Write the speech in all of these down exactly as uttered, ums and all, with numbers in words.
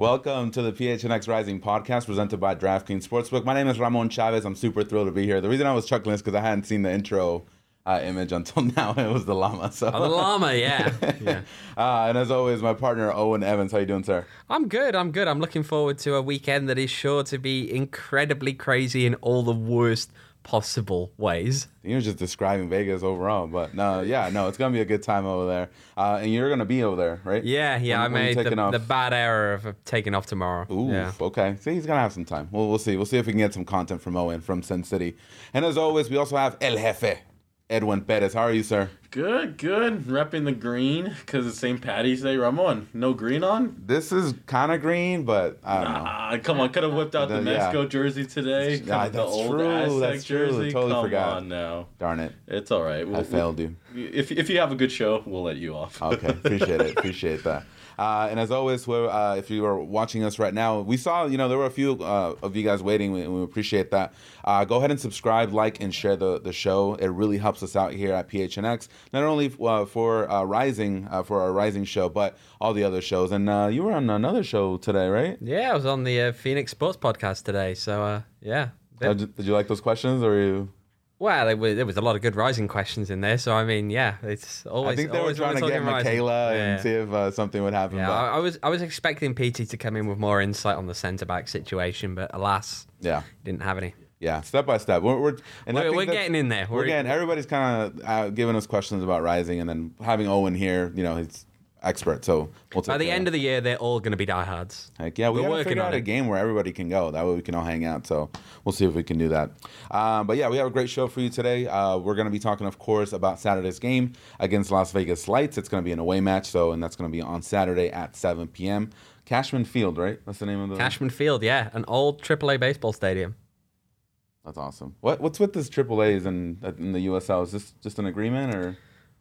Welcome to the P H N X Rising podcast presented by DraftKings Sportsbook. My name is Ramon Chavez. I'm super thrilled to be here. The reason I was chuckling is because I hadn't seen the intro uh, image until now. It was the llama. So. Oh, the llama, yeah. yeah. uh, and as always, my partner, Owen Evans. How you doing, sir? I'm good. I'm good. I'm looking forward to a weekend that is sure to be incredibly crazy in all the worst possible ways. You're just describing Vegas overall, but no, yeah, no, it's gonna be a good time over there, uh, and you're gonna be over there, right? Yeah, yeah. When, I made the, the bad error of taking off tomorrow. Ooh, yeah. Okay. See, he's gonna have some time. We'll we'll see. We'll see if we can get some content from Owen from Sin City, and as always, we also have El Jefe, Edwin Perez. How are you, sir? Good, good. Repping the green because it's Saint Patty's Day. Ramon, no green on? This is kind of green, but I don't know. Ah, come on. Could have whipped out the, the Mexico yeah. jersey today. Yeah, that's the old true. Aztec That's true. jersey. Totally come forgot. on now. Darn it. It's all right. We'll, I failed you. If, if you have a good show, we'll let you off. Okay. Appreciate it. Appreciate that. Uh, and as always, we're, uh, if you are watching us right now, we saw, you know, there were a few uh, of you guys waiting, and we appreciate that. Uh, go ahead and subscribe, like, and share the, the show. It really helps us out here at P H N X, not only uh, for uh, Rising, uh, for our Rising show, but all the other shows. And uh, you were on another show today, right? Yeah, I was on the uh, Phoenix Sports Podcast today, so uh, yeah. Uh, did, did you like those questions, or you... Well, there was, there was a lot of good Rising questions in there, so I mean, yeah, it's always. I think they always were trying to get Michaela and yeah. see if uh, something would happen. Yeah, but... I, I was I was expecting P T to come in with more insight on the centre back situation, but alas, yeah, didn't have any. Yeah, step by step. We're we're, and we're, we're getting in there. We're, we're getting. Everybody's kind of uh, giving us questions about Rising, and then having Owen here, you know, he's expert. So we'll by the end of the year, they're all going to be diehards. Heck yeah, we we're gotta working figure on out it. a game where everybody can go. That way we can all hang out. So we'll see if we can do that. Um, but yeah, we have a great show for you today. Uh, we're going to be talking, of course, about Saturday's game against Las Vegas Lights. It's going to be an away match, so and that's going to be on Saturday at seven p.m. Cashman Field, right? That's the name of the Cashman Field. Yeah, an old triple A baseball stadium. That's awesome. What what's with this triple A's in in the U S L? Is this just an agreement or?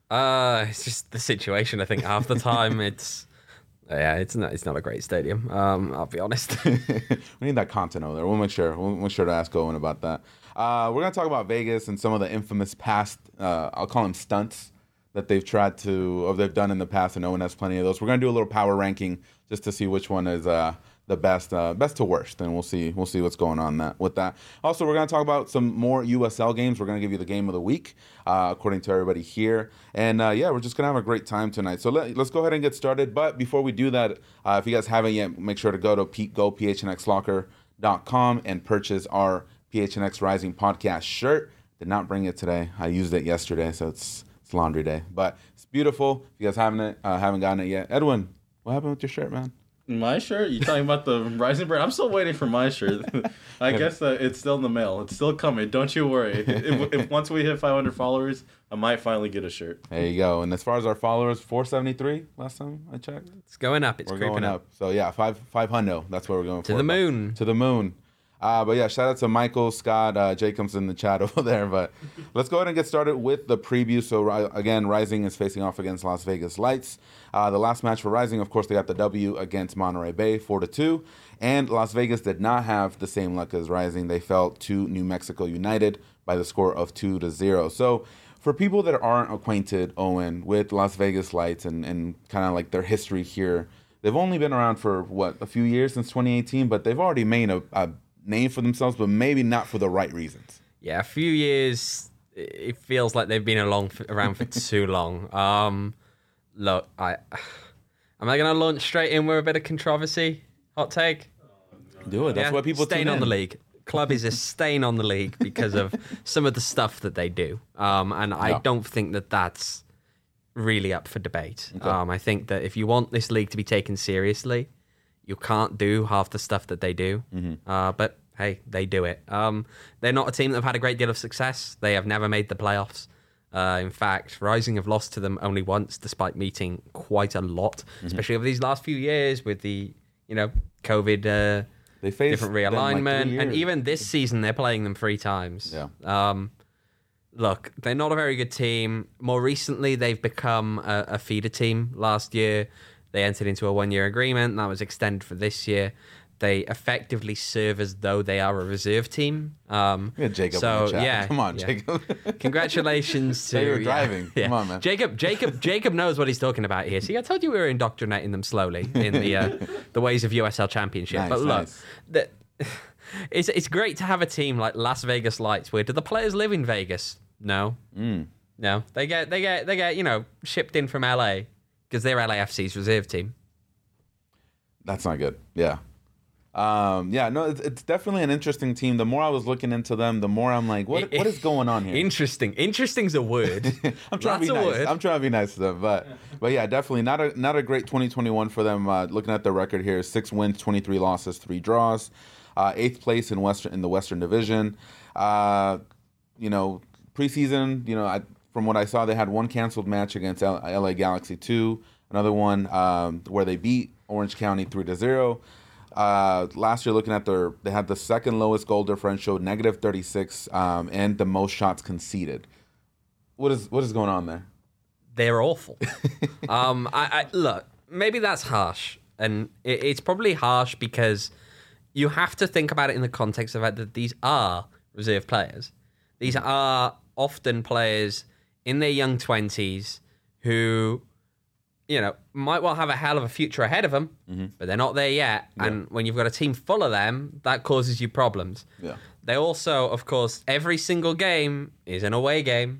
Uh, it's just the situation. I think half the time it's. Yeah, it's not. It's not a great stadium. Um, I'll be honest. We need that content over there. We'll make sure. We'll make sure to ask Owen about that. Uh, we're gonna talk about Vegas and some of the infamous past. Uh, I'll call them stunts that they've tried to, or they've done in the past, and Owen has plenty of those. We're gonna do a little power ranking just to see which one is uh, the best, uh, best to worst, and we'll see. We'll see what's going on that with that. Also, we're gonna talk about some more U S L games. We're gonna give you the game of the week, uh, according to everybody here. And uh, yeah, we're just gonna have a great time tonight. So let, let's go ahead and get started. But before we do that, uh, if you guys haven't yet, make sure to go to P- go P H N X locker dot com and purchase our P H N X Rising podcast shirt. Did not bring it today. I used it yesterday, so it's it's laundry day. But it's beautiful. If you guys haven't it, uh, haven't gotten it yet, Edwin, what happened with your shirt, man? My shirt? You talking about the Rising brand? I'm still waiting for my shirt. I guess uh, it's still in the mail. It's still coming. Don't you worry. If, if once we hit five hundred followers, I might finally get a shirt. There you go. And as far as our followers, four seventy-three last time I checked. It's going up. It's we're creeping going up. up. So yeah, five five hundred. That's what we're going to for. To the moon. To the moon. Uh, but yeah, shout out to Michael, Scott, uh, Jacobs in the chat over there. But let's go ahead and get started with the preview. So again, Rising is facing off against Las Vegas Lights. Uh, the last match for Rising, of course, they got the W against Monterey Bay, four to two. And Las Vegas did not have the same luck as Rising. They fell to New Mexico United by the score of two to zero. So for people that aren't acquainted, Owen, with Las Vegas Lights and, and kind of like their history here, they've only been around for, what, a few years since twenty eighteen, but they've already made a, a name for themselves, but maybe not for the right reasons. Yeah, a few years. It feels like they've been along for, around for too long. Um, look, I am I going to launch straight in with a bit of controversy? Hot take. Do it. That's yeah, what people stain tune on in. the league. Club is a stain on the league because of some of the stuff that they do, um, and I No. don't think that that's really up for debate. Okay. Um, I think that if you want this league to be taken seriously, you can't do half the stuff that they do. Mm-hmm. Uh, but hey, they do it. Um, they're not a team that have had a great deal of success. They have never made the playoffs. Uh, in fact, Rising have lost to them only once, despite meeting quite a lot, mm-hmm. especially over these last few years with the, you know, COVID, uh, they faced different realignment, like and even this season they're playing them three times. Yeah. Um, look, they're not a very good team. More recently, they've become a, a feeder team. Last year, they entered into a one-year agreement that was extended for this year. they effectively serve as though they are a reserve team. Um, Yeah, Jacob. so in the chat. yeah, Come on, yeah. Jacob. Congratulations to They were yeah, driving. yeah. Come on, man. Jacob. Jacob. Jacob knows what he's talking about here. See, I told you we were indoctrinating them slowly in the uh, the ways of U S L Championship. Nice, but look, nice. the, it's it's great to have a team like Las Vegas Lights. Where do the players live in Vegas? No, Mm. no. They get they get they get you know shipped in from L A because they're L A F C's reserve team. That's not good. Yeah. Um, yeah, no, it's, it's definitely an interesting team. The more I was looking into them, the more I'm like, what what is going on here? Interesting. Interesting's a word. I'm trying That's to be a nice. word. I'm trying to be nice to them, but but yeah, definitely not a not a great twenty twenty-one for them. Uh, looking at the record here, six wins, twenty-three losses, three draws, uh, eighth place in Western in the Western Division. Uh, you know, preseason, you know, I, from what I saw, they had one canceled match against L- LA Galaxy two, another one um, where they beat Orange County three to zero. Uh, last year, looking at their, they had the second lowest goal differential, negative thirty-six, um, and the most shots conceded. What is what is going on there? They're awful. um, I, I look, maybe that's harsh, and it, it's probably harsh because you have to think about it in the context of the fact that these are reserve players. These are often players in their young twenties who, you know, might well have a hell of a future ahead of them, mm-hmm. but they're not there yet. Yeah. And when you've got a team full of them, that causes you problems. Yeah. They also, of course, every single game is an away game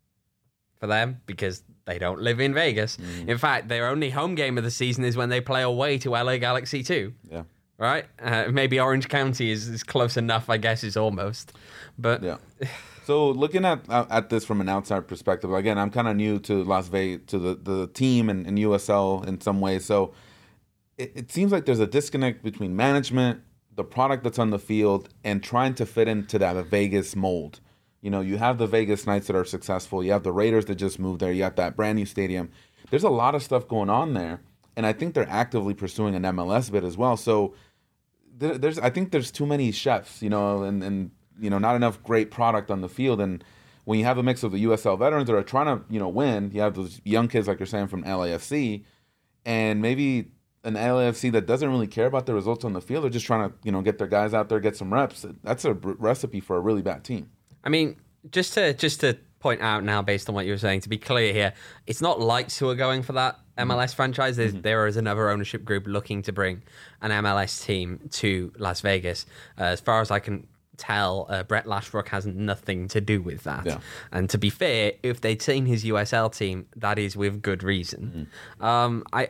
for them because they don't live in Vegas. Mm-hmm. In fact, their only home game of the season is when they play away to L A Galaxy two. Yeah. Right? Uh, maybe Orange County is, is close enough, I guess, is almost. But yeah. So looking at at this from an outside perspective, again, I'm kind of new to Las Vegas, to the, the team and, and U S L in some ways. So it, it seems like there's a disconnect between management, the product that's on the field, and trying to fit into that Vegas mold. You know, you have the Vegas Knights that are successful. You have the Raiders that just moved there. You have that brand new stadium. There's a lot of stuff going on there, and I think they're actively pursuing an M L S bid as well. So there, there's, I think there's too many chefs, you know, and and. you know, not enough great product on the field. And when you have a mix of the U S L veterans that are trying to, you know, win, you have those young kids, like you're saying, from L A F C, and maybe an L A F C that doesn't really care about the results on the field. They're just trying to, you know, get their guys out there, get some reps. That's a recipe for a really bad team. I mean, just to just to point out now, based on what you were saying, to be clear here, it's not Lights who are going for that M L S franchise. There's, mm-hmm. There is another ownership group looking to bring an M L S team to Las Vegas. Uh, as far as I can tell, uh, Brett Lashbrook has nothing to do with that. Yeah. And to be fair, if they'd seen his U S L team, that is with good reason. Mm-hmm. Um, I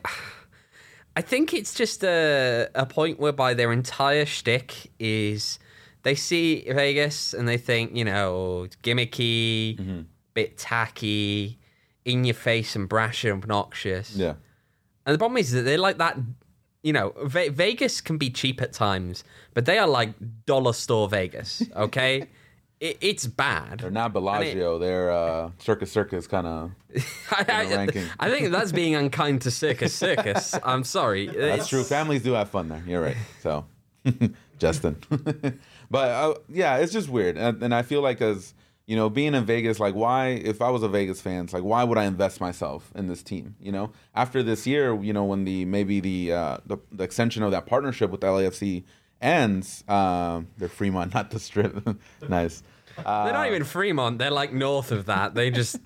I think it's just a, a point whereby their entire shtick is they see Vegas and they think, you know, it's gimmicky, mm-hmm. bit tacky, in your face and brash and obnoxious. Yeah. And the problem is that they're like that. You know, Ve- Vegas can be cheap at times, but they are like dollar store Vegas, okay? it, it's bad. They're not Bellagio. It, they're uh, Circus Circus kind of ranking. I think that's being unkind to Circus Circus. I'm sorry. That's it's... true. Families do have fun there. You're right. So, Justin. But, uh, yeah, it's just weird. And, and I feel like as... You know, being in Vegas, like, why, if I was a Vegas fan, it's like, why would I invest myself in this team? You know, after this year, you know, when the, maybe the, uh, the, the extension of that partnership with L A F C ends, um, they're Fremont, not the Strip. Nice. Uh, they're not even Fremont. They're like north of that. They just.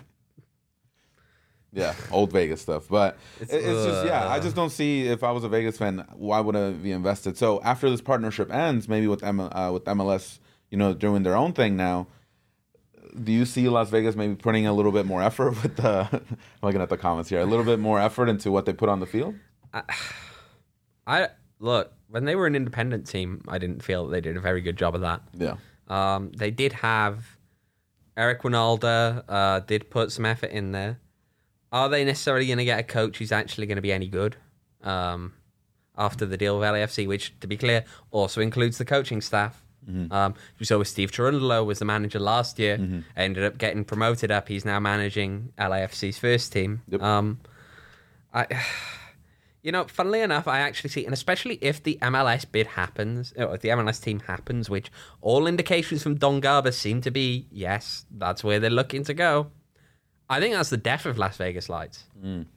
Yeah, old Vegas stuff. But it's, it's uh, just, yeah, I just don't see, if I was a Vegas fan, why would I be invested? So after this partnership ends, maybe with, M- uh, with M L S, you know, doing their own thing now, do you see Las Vegas maybe putting a little bit more effort with the, I'm looking at the comments here, a little bit more effort into what they put on the field? I, I look, when they were an independent team, I didn't feel that they did a very good job of that. Yeah. Um, they did have Eric Winalda, uh, did put some effort in there. Are they necessarily going to get a coach who's actually going to be any good um, after the deal with L A F C, which, to be clear, also includes the coaching staff? Mm-hmm. Um, we saw with Steve Cherundolo was the manager last year, mm-hmm. ended up getting promoted up. He's now managing L A F C's first team. Yep. Um, I, you know, funnily enough, I actually see, and especially if the M L S bid happens, or if the M L S team happens, which all indications from Don Garber seem to be, yes, that's where they're looking to go. I think that's the death of Las Vegas Lights. Mm.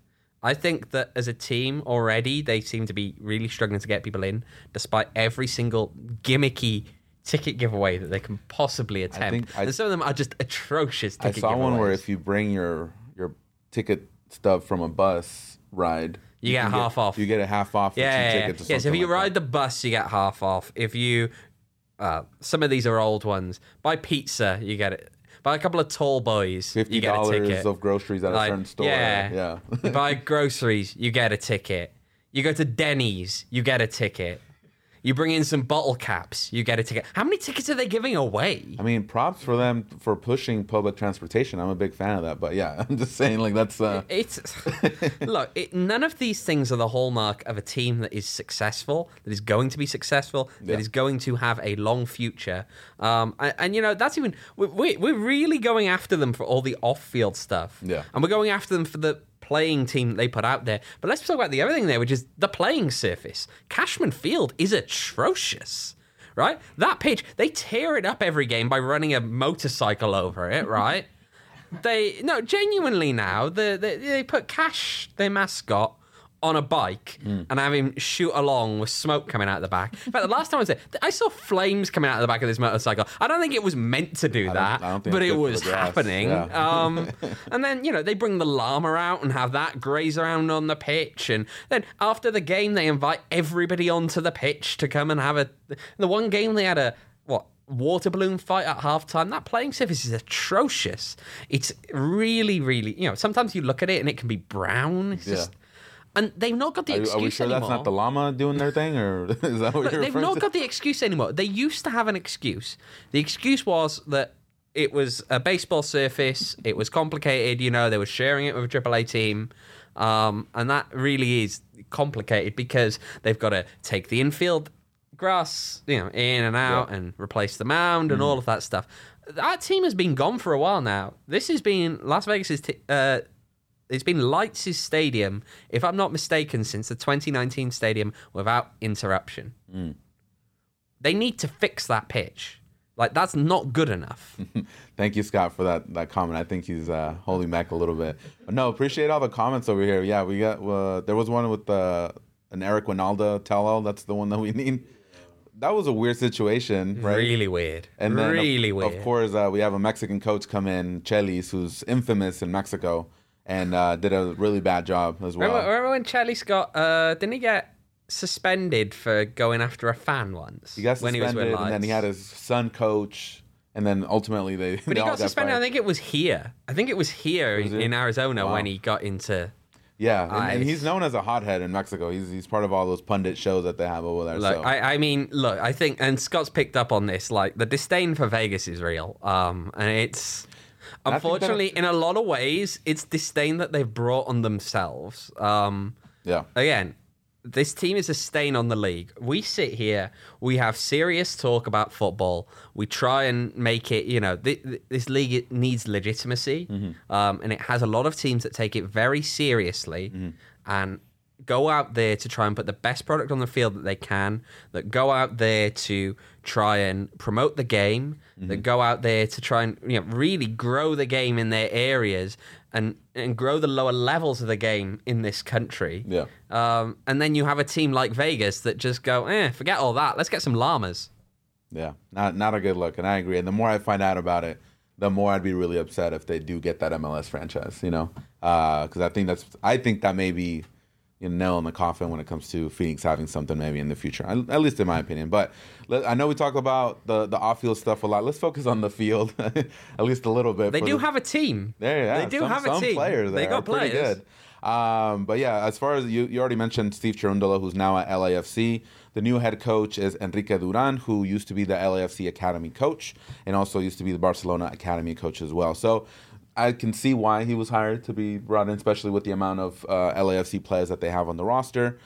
I think that as a team already, they seem to be really struggling to get people in, despite every single gimmicky ticket giveaway that they can possibly attempt. I think I, and some of them are just atrocious ticket giveaways. I saw one where if you bring your your ticket stub from a bus ride, you, you get half get, off. You get a half off for yeah, two yeah, tickets. Yeah, or yeah so if you like ride that. the bus, you get half off. If you, uh, some of these are old ones. Buy pizza, you get it. Buy a couple of tall boys, fifty you get a ticket. of groceries at like, a certain store. Yeah, yeah. You buy groceries, you get a ticket. You go to Denny's, you get a ticket. You bring in some bottle caps, you get a ticket. How many tickets are they giving away? I mean, props for them for pushing public transportation. I'm a big fan of that. But yeah, I'm just saying, like, that's... Uh... It's Look, it, none of these things are the hallmark of a team that is successful, that is going to be successful, that yeah. is going to have a long future. Um, and, and, you know, that's even... We, we're really going after them for all the off-field stuff. Yeah. And we're going after them for the playing team that they put out there. But let's talk about the other thing there, which is the playing surface. Cashman Field is atrocious, right? That pitch, they tear it up every game by running a motorcycle over it, right? they, no, genuinely now, the, the, they put Cash, their mascot, on a bike mm. and have him shoot along with smoke coming out of the back. In fact, the last time I was there, I saw flames coming out of the back of this motorcycle. I don't think it was meant to do I that, don't, I don't think but it was grass. happening. Yeah. um, and then, you know, they bring the llama out and have that graze around on the pitch. And then after the game, they invite everybody onto the pitch to come and have a... The one game they had a, what, water balloon fight at halftime. That playing surface is atrocious. It's really, really... You know, sometimes you look at it and it can be brown. It's yeah. just... And they've not got the are, excuse anymore. Are we sure anymore. that's not the llama doing their thing, or is that what Look, you're they've referring not to? got the excuse anymore. They used to have an excuse. The excuse was that it was a baseball surface. It was complicated. You know, they were sharing it with a triple A team. Um, and that really is complicated because they've got to take the infield grass, you know, in and out yeah. and replace the mound and mm. all of that stuff. That team has been gone for a while now. This has been Las Vegas's... T- uh, It's been Lights' stadium, if I'm not mistaken, since the twenty nineteen stadium without interruption. Mm. They need to fix that pitch. Like, that's not good enough. Thank you, Scott, for that, that comment. I think he's uh, holding back a little bit. But no, appreciate all the comments over here. Yeah, we got, uh, there was one with uh, an Eric Winalda tell-all. That's the one that we need. That was a weird situation, right? Really weird. And then, really of, weird. Of course, uh, we have a Mexican coach come in, Chelis, who's infamous in Mexico. And uh, did a really bad job as well. Remember, remember when Charlie Scott, uh, didn't he get suspended for going after a fan once? He got when suspended, he was with and then he had his son coach, and then ultimately they. But they he all got suspended. fired. I think it was here. I think it was here was in, in Arizona wow. when he got into. Yeah, and, and he's known as a hothead in Mexico. He's he's part of all those pundit shows that they have over there. Look, so. I, I mean, look, I think, and Scott's picked up on this. Like, the disdain for Vegas is real, um, and it's. Unfortunately, in a lot of ways, it's disdain that they've brought on themselves. Um, yeah. Again, this team is a stain on the league. We sit here, we have serious talk about football. We try and make it, you know, th- th- this league it needs legitimacy. Mm-hmm. Um, and it has a lot of teams that take it very seriously mm-hmm. and go out there to try and put the best product on the field that they can, that go out there to try and promote the game, mm-hmm. that go out there to try and, you know, really grow the game in their areas and, and grow the lower levels of the game in this country. Yeah. Um, and then you have a team like Vegas that just go, eh, forget all that. Let's get some llamas. Yeah, not not a good look, and I agree. And the more I find out about it, the more I'd be really upset if they do get that M L S franchise, you know? Because uh, I think that's, I think that may be you know, nail in the coffin when it comes to Phoenix having something maybe in the future, at least in my opinion. But let, I know we talk about the, the off-field stuff a lot. Let's focus on the field, at least a little bit. They do the, have a team. There, yeah, they do some, have a some team. players They got pretty players. Good. Um, but yeah, as far as you, you already mentioned Steve Cherundolo, who's now at L A F C. The new head coach is Enrique Duran, who used to be the L A F C Academy coach and also used to be the Barcelona Academy coach as well. So I can see why he was hired to be brought in, especially with the amount of uh, L A F C players that they have on the roster.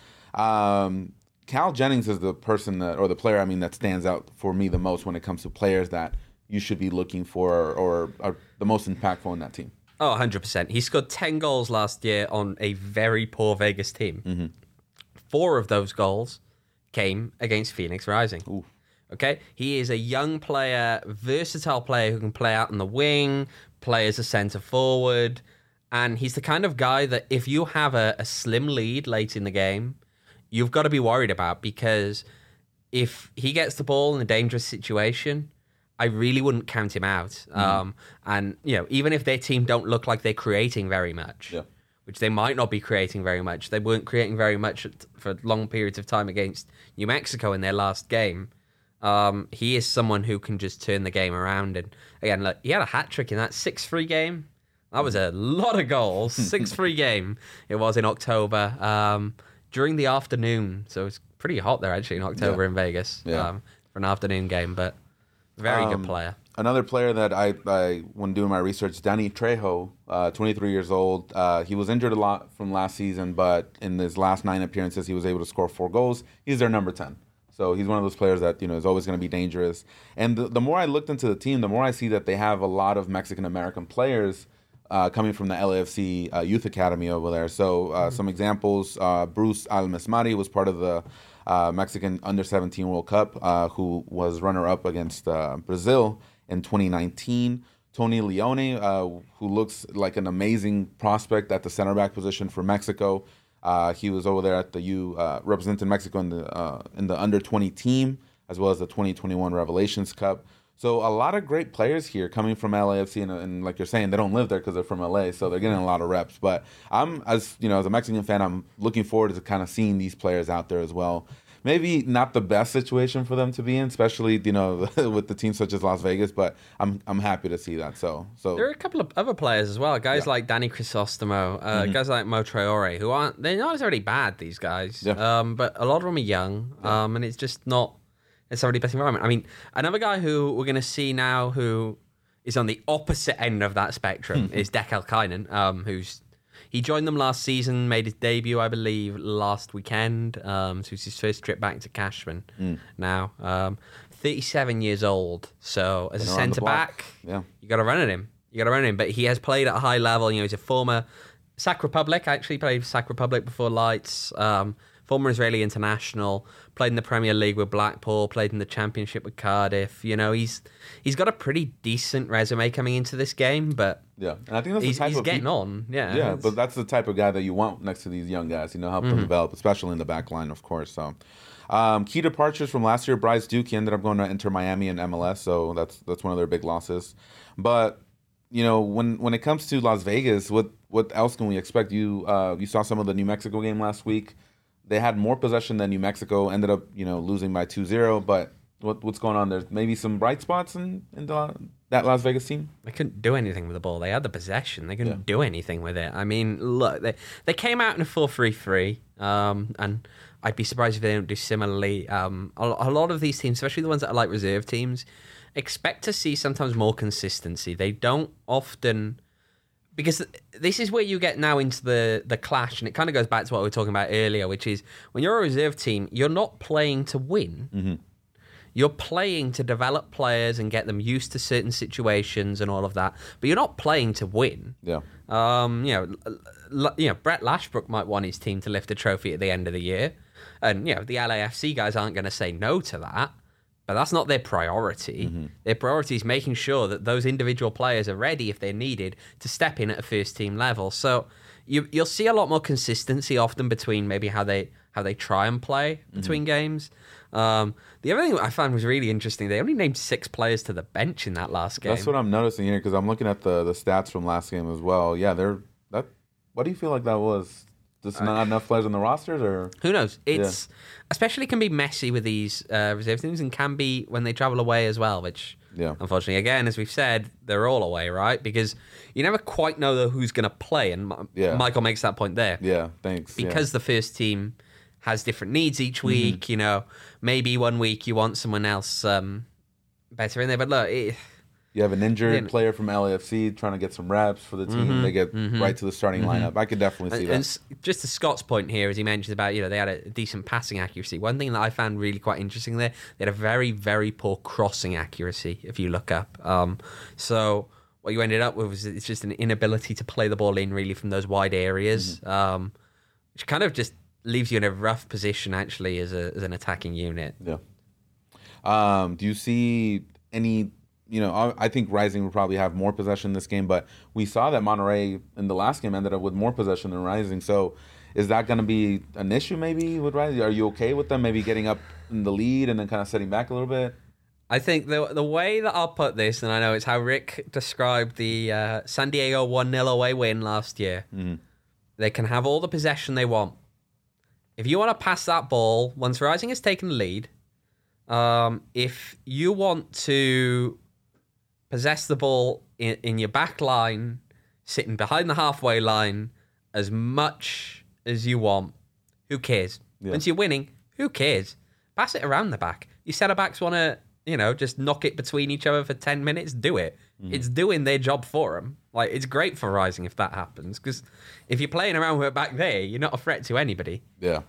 Um, Cal Jennings is the person that, or the player, I mean, that stands out for me the most when it comes to players that you should be looking for or, or are the most impactful in that team. Oh, one hundred percent. He scored ten goals last year on a very poor Vegas team. Mm-hmm. Four of those goals came against Phoenix Rising. Ooh. Okay? He is a young player, versatile player who can play out on the wing, play as a centre forward, And he's the kind of guy that if you have a, a slim lead late in the game, you've got to be worried about, because if he gets the ball in a dangerous situation, I really wouldn't count him out. Mm-hmm. Um, and, you know, even if their team don't look like they're creating very much, yeah. which they might not be creating very much, they weren't creating very much for long periods of time against New Mexico in their last game. Um, he is someone who can just turn the game around. And again, look, he had a hat trick in that six three game. That was a lot of goals. six three game it was in October um, during the afternoon. So it's pretty hot there, actually, in October yeah. in Vegas yeah. um, for an afternoon game. But very um, good player. Another player that I, I when doing my research, Danny Trejo, uh, twenty-three years old. Uh, he was injured a lot from last season, but in his last nine appearances, he was able to score four goals. He's their number ten. So he's one of those players that, you know, is always going to be dangerous. And the, the more I looked into the team, the more I see that they have a lot of Mexican-American players uh, coming from the L A F C uh, Youth Academy over there. So uh, mm-hmm. some examples, uh, Bruce Almesmari was part of the uh, Mexican under seventeen World Cup, uh, who was runner-up against uh, Brazil in twenty nineteen. Tony Leone, uh, who looks like an amazing prospect at the center back position for Mexico. Uh, he was over there at the U, uh, representing Mexico in the uh, in the under twenty team, as well as the twenty twenty-one Revelations Cup. So a lot of great players here coming from L A F C, and, and like you're saying, they don't live there because they're from L A, so they're getting a lot of reps. But I'm, as you know, as a Mexican fan, I'm looking forward to kind of seeing these players out there as well. Maybe not the best situation for them to be in, especially, you know, with the teams such as Las Vegas, but I'm I'm happy to see that. So so there are a couple of other players as well, guys yeah. like Danny Crisostomo, uh, mm-hmm. guys like Mo Traore, who aren't, they're not necessarily bad, these guys, yeah. um, but a lot of them are young, yeah. um, and it's just not necessarily the best environment. I mean, another guy who we're going to see now who is on the opposite end of that spectrum is Dekel Kainen, um, who's He joined them last season, made his debut, I believe, last weekend. Um, so it's his first trip back to Cashman mm. now. Um, thirty-seven years old. So as Been a centre back, yeah. you got to run at him. You got to run at him. But he has played at a high level. You know, he's a former Sac Republic. Actually played for Sac Republic before Lights. Um, former Israeli international. Played in the Premier League with Blackpool. Played in the Championship with Cardiff. You know, he's he's got a pretty decent resume coming into this game. But yeah, and I think that's he's, the type he's of getting people, on. Yeah, yeah, but that's the type of guy that you want next to these young guys. You know, help mm-hmm. them develop, especially in the back line, of course. So, um, key departures from last year: Bryce Duke. He ended up going to Inter Miami and M L S, so that's that's one of their big losses. But you know, when when it comes to Las Vegas, what what else can we expect? You uh, you saw some of the New Mexico game last week. They had more possession than New Mexico. Ended up, you know, losing by two zero. But what what's going on there? Maybe some bright spots in, in the, that Las Vegas team? They couldn't do anything with the ball. They had the possession. They couldn't yeah. do anything with it. I mean, look, they they came out in a four three three, um, and I'd be surprised if they don't do similarly. Um, a, a lot of these teams, especially the ones that are like reserve teams, expect to see sometimes more consistency. They don't often... Because this is where you get now into the, the clash, and it kind of goes back to what we were talking about earlier, which is when you're a reserve team, you're not playing to win. Mm-hmm. You're playing to develop players and get them used to certain situations and all of that, but you're not playing to win. Yeah. Um, you know, you know, Brett Lashbrook might want his team to lift a trophy at the end of the year, and you know the L A F C guys aren't going to say no to that. But that's not their priority. Mm-hmm. Their priority is making sure that those individual players are ready if they're needed to step in at a first team level. So you, you'll see a lot more consistency often between maybe how they how they try and play between mm-hmm. games. Um, the other thing that I found was really interesting, they only named six players to the bench in that last game. That's what I'm noticing here because I'm looking at the, the stats from last game as well. Yeah, they're that. What do you feel like that was? Just not enough players on the rosters, or who knows? It's yeah. especially can be messy with these uh, reserve teams, and can be when they travel away as well. Which, yeah. unfortunately, again, as we've said, they're all away, right? Because you never quite know who's going to play, and yeah. Michael makes that point there. Yeah, thanks. Because yeah. the first team has different needs each week. Mm-hmm. You know, maybe one week you want someone else um, better in there, but look. It, You have an injured yeah. player from L A F C trying to get some reps for the team. Mm-hmm, they get mm-hmm, right to the starting mm-hmm. lineup. I could definitely see and, that. And just to Scott's point here, as he mentioned about, you know, they had a decent passing accuracy. One thing that I found really quite interesting there, they had a very, very poor crossing accuracy, if you look up. Um, so what you ended up with was it's just an inability to play the ball in really from those wide areas, mm-hmm. um, which kind of just leaves you in a rough position, actually, as, a, as an attacking unit. Yeah. Um, do you see any... you know, I, I think Rising will probably have more possession this game, but we saw that Monterey in the last game ended up with more possession than Rising. So is that going to be an issue maybe with Rising? Are you okay with them maybe getting up in the lead and then kind of setting back a little bit? I think the the way that I'll put this, and I know it's how Rick described the uh, San Diego one nil away win last year. Mm-hmm. They can have all the possession they want. If you want to pass that ball, once Rising has taken the lead, um, if you want to possess the ball in, in your back line, sitting behind the halfway line as much as you want, who cares? Yeah. Once you're winning, who cares? Pass it around the back. Your centre backs want to, you know, just knock it between each other for ten minutes, do it. Mm. It's doing their job for them. Like, it's great for Rising if that happens, because if you're playing around with it back there, you're not a threat to anybody. Yeah.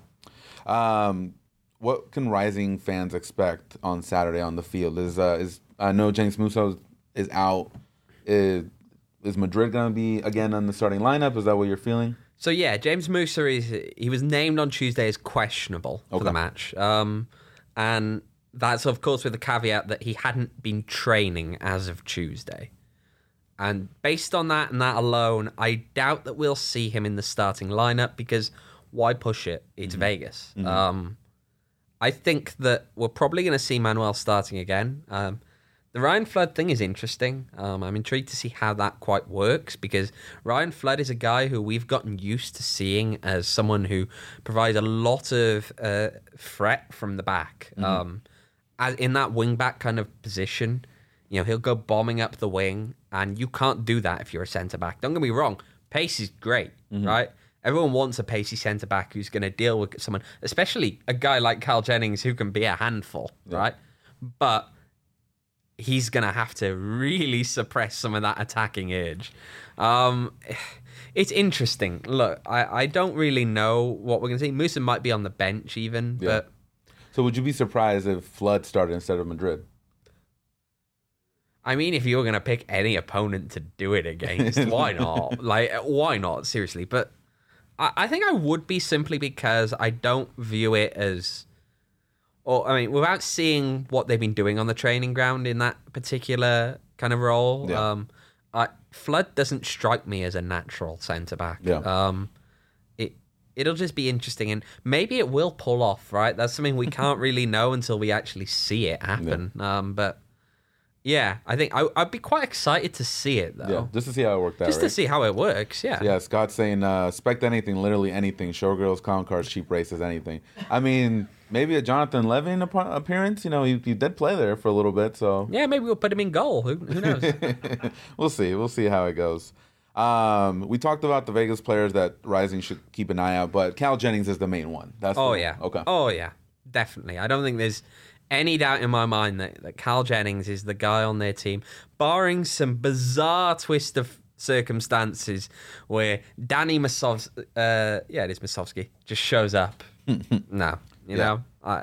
Um, what can Rising fans expect on Saturday on the field? Is uh, is I know James Musso is out. Is, is Madrid going to be again on the starting lineup? Is that what you're feeling? So yeah, James Musso is he was named on Tuesday as questionable for okay. the match, um, and that's of course with the caveat that he hadn't been training as of Tuesday. And based on that and that alone, I doubt that we'll see him in the starting lineup because why push it? It's mm-hmm. Vegas. Mm-hmm. Um, I think that we're probably going to see Manuel starting again. Um, the Ryan Flood thing is interesting. Um, I'm intrigued to see how that quite works because Ryan Flood is a guy who we've gotten used to seeing as someone who provides a lot of uh, threat from the back. Mm-hmm. Um, as in that wing back kind of position, you know, he'll go bombing up the wing, and you can't do that if you're a centre back. Don't get me wrong, pace is great, mm-hmm. right? Everyone wants a pacey centre back who's going to deal with someone, especially a guy like Carl Jennings who can be a handful, yeah. right? But he's going to have to really suppress some of that attacking urge. Um, it's interesting. Look, I, I don't really know what we're going to see. Musa might be on the bench even, yeah. but... So would you be surprised if Flood started instead of Madrid? I mean, if you were going to pick any opponent to do it against, why not? Like, why not? Seriously. But I, I think I would be simply because I don't view it as... Or, I mean, without seeing what they've been doing on the training ground in that particular kind of role, yeah. um, I, Flood doesn't strike me as a natural centre-back. Yeah. Um, it, it'll just be interesting. And maybe it will pull off, right? That's something we can't really know until we actually see it happen. Yeah. Um, but... Yeah, I think I, I'd be quite excited to see it, though. Yeah, just to see how it worked out, Just right? to see how it works, yeah. So yeah, Scott's saying, uh, expect anything, literally anything. Showgirls, clown cars, cheap races, anything. I mean, maybe a Jonathan Levin ap- appearance. You know, he, he did play there for a little bit, so... Yeah, maybe we'll put him in goal. Who, who knows? We'll see. We'll see how it goes. Um, we talked about the Vegas players that Rising should keep an eye out, but Cal Jennings is the main one. That's oh, the, yeah. Okay. Oh, yeah. Definitely. I don't think there's... any doubt in my mind that, that Cal Jennings is the guy on their team, barring some bizarre twist of circumstances where Danny Masovsky, uh, yeah, it is Masovsky, just shows up. no, you yeah. know, I.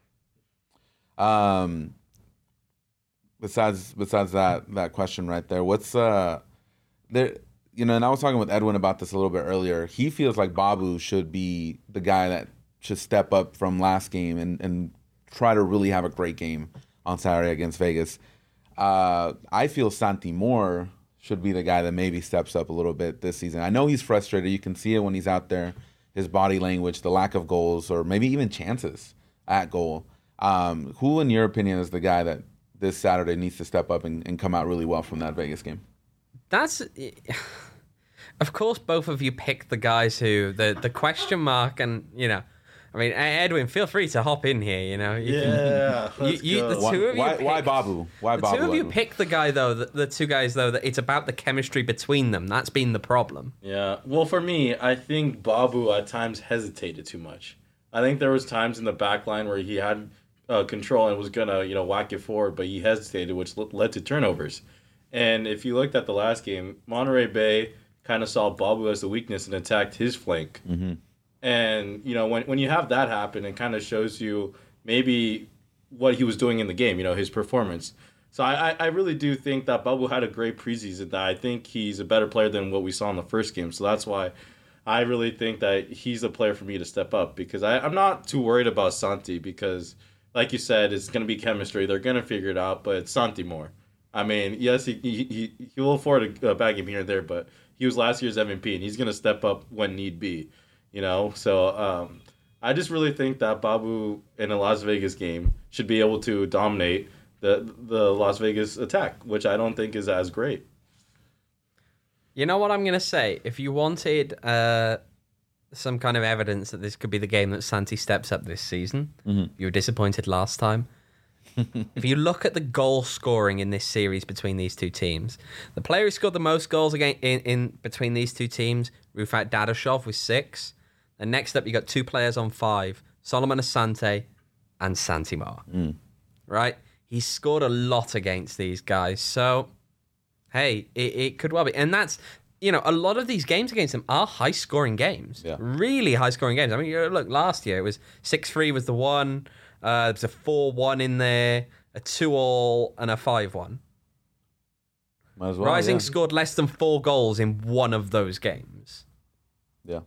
Um. Besides, besides that that question right there, what's uh, there? You know, and I was talking with Edwin about this a little bit earlier. He feels like Babu should be the guy that should step up from last game and and. try to really have a great game on Saturday against Vegas. Uh, I feel Santi Moore should be the guy that maybe steps up a little bit this season. I know he's frustrated. You can see it when he's out there, his body language, the lack of goals, or maybe even chances at goal. Um, who, in your opinion, is the guy that this Saturday needs to step up and, and come out really well from that Vegas game? That's... Of course, both of you pick the guys who... The, the question mark and, you know... I mean, Edwin, feel free to hop in here. You know, you yeah. Can, you, you, the two why, of you. Why, pick, why Babu? Why the Babu? The two of you Edwin? pick the guy though. The, the two guys though. That it's about the chemistry between them. That's been the problem. Yeah. Well, for me, I think Babu at times hesitated too much. I think there was times in the back line where he had uh, control and was gonna, you know, whack it forward, but he hesitated, which led to turnovers. And if you looked at the last game, Monterey Bay kind of saw Babu as the weakness and attacked his flank. Mm-hmm. And, you know, when when you have that happen, it kind of shows you maybe what he was doing in the game, you know, his performance. So I, I really do think that Babu had a great preseason, that I think he's a better player than what we saw in the first game. So that's why I really think that he's a player for me to step up, because I, I'm not too worried about Santi because, like you said, it's going to be chemistry. They're going to figure it out, but it's Santi more. I mean, yes, he he he, he will afford a, a bag game here and there, but he was last year's M V P, and he's gonna step up when need be. You know, so um, I just really think that Babu in a Las Vegas game should be able to dominate the the Las Vegas attack, which I don't think is as great. You know what I'm going to say? If you wanted uh, some kind of evidence that this could be the game that Santi steps up this season, mm-hmm. you were disappointed last time. If you look at the goal scoring in this series between these two teams, the player who scored the most goals again in, in between these two teams, Rufat Dadashov with six. And next up, you got two players on five, Solomon Asante and Santimar. Mm. Right? He's scored a lot against these guys. So, hey, it, it could well be. And that's, you know, a lot of these games against them are high-scoring games. Yeah. Really high-scoring games. I mean, look, last year it was six three was the one. Uh, there was a four one in there, a two all, and a five one. Might as well, Rising yeah. scored less than four goals in one of those games. Yeah.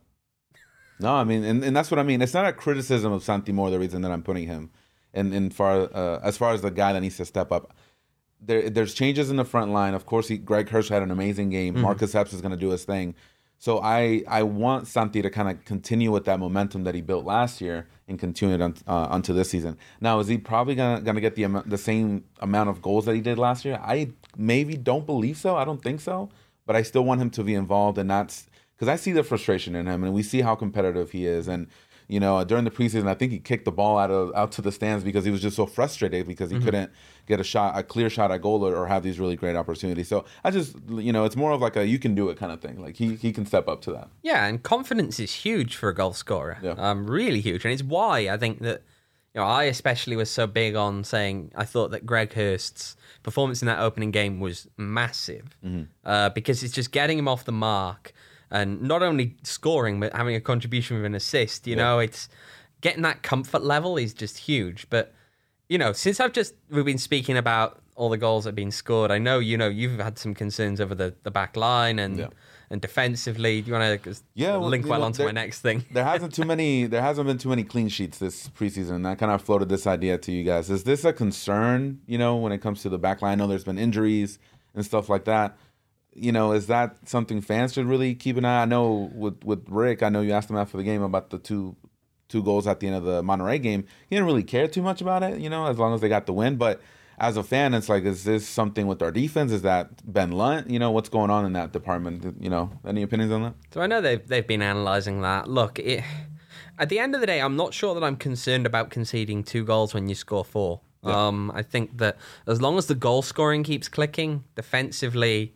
No, I mean, and, and that's what I mean. It's not a criticism of Santi Moar, the reason that I'm putting him in, in far, uh, as far as the guy that needs to step up. There, there's changes in the front line. Of course, he, Greg Hirsch had an amazing game. Mm-hmm. Marcus Epps is going to do his thing. So I, I want Santi to kind of continue with that momentum that he built last year and continue it on, uh, onto this season. Now, is he probably gonna gonna get the the same amount of goals that he did last year? I maybe don't believe so. I don't think so. But I still want him to be involved, and that's because I see the frustration in him, and we see how competitive he is. And you know, during the preseason, I think he kicked the ball out of out to the stands because he was just so frustrated because he mm-hmm. couldn't get a shot, a clear shot at goal, or, or have these really great opportunities. So I just, you know, it's more of like a you can do it kind of thing. Like he he can step up to that. Yeah, and confidence is huge for a goal scorer. Yeah. Um, really huge, and it's why I think that, you know, I especially was so big on saying I thought that Greg Hurst's performance in that opening game was massive mm-hmm. uh, because it's just getting him off the mark. And not only scoring, but having a contribution with an assist. You yeah. know, it's getting that comfort level is just huge. But, you know, since I've just, we've been speaking about all the goals that have been scored, I know, you know, you've had some concerns over the, the back line and yeah. and defensively. Do you want to yeah, link well, well know, onto there, my next thing? there hasn't too many, there hasn't been too many clean sheets this preseason. And I kind of floated this idea to you guys. Is this a concern, you know, when it comes to the back line? I know there's been injuries and stuff like that. You know, is that something fans should really keep an eye on? I know with, with Rick, I know you asked him after the game about the two two goals at the end of the Monterrey game. He didn't really care too much about it, you know, as long as they got the win. But as a fan, it's like, is this something with our defense? Is that Ben Lunt? You know, what's going on in that department? You know, any opinions on that? So I know they've, they've been analysing that. Look, it, at the end of the day, I'm not sure that I'm concerned about conceding two goals when you score four. Yeah. Um, I think that as long as the goal scoring keeps clicking, defensively...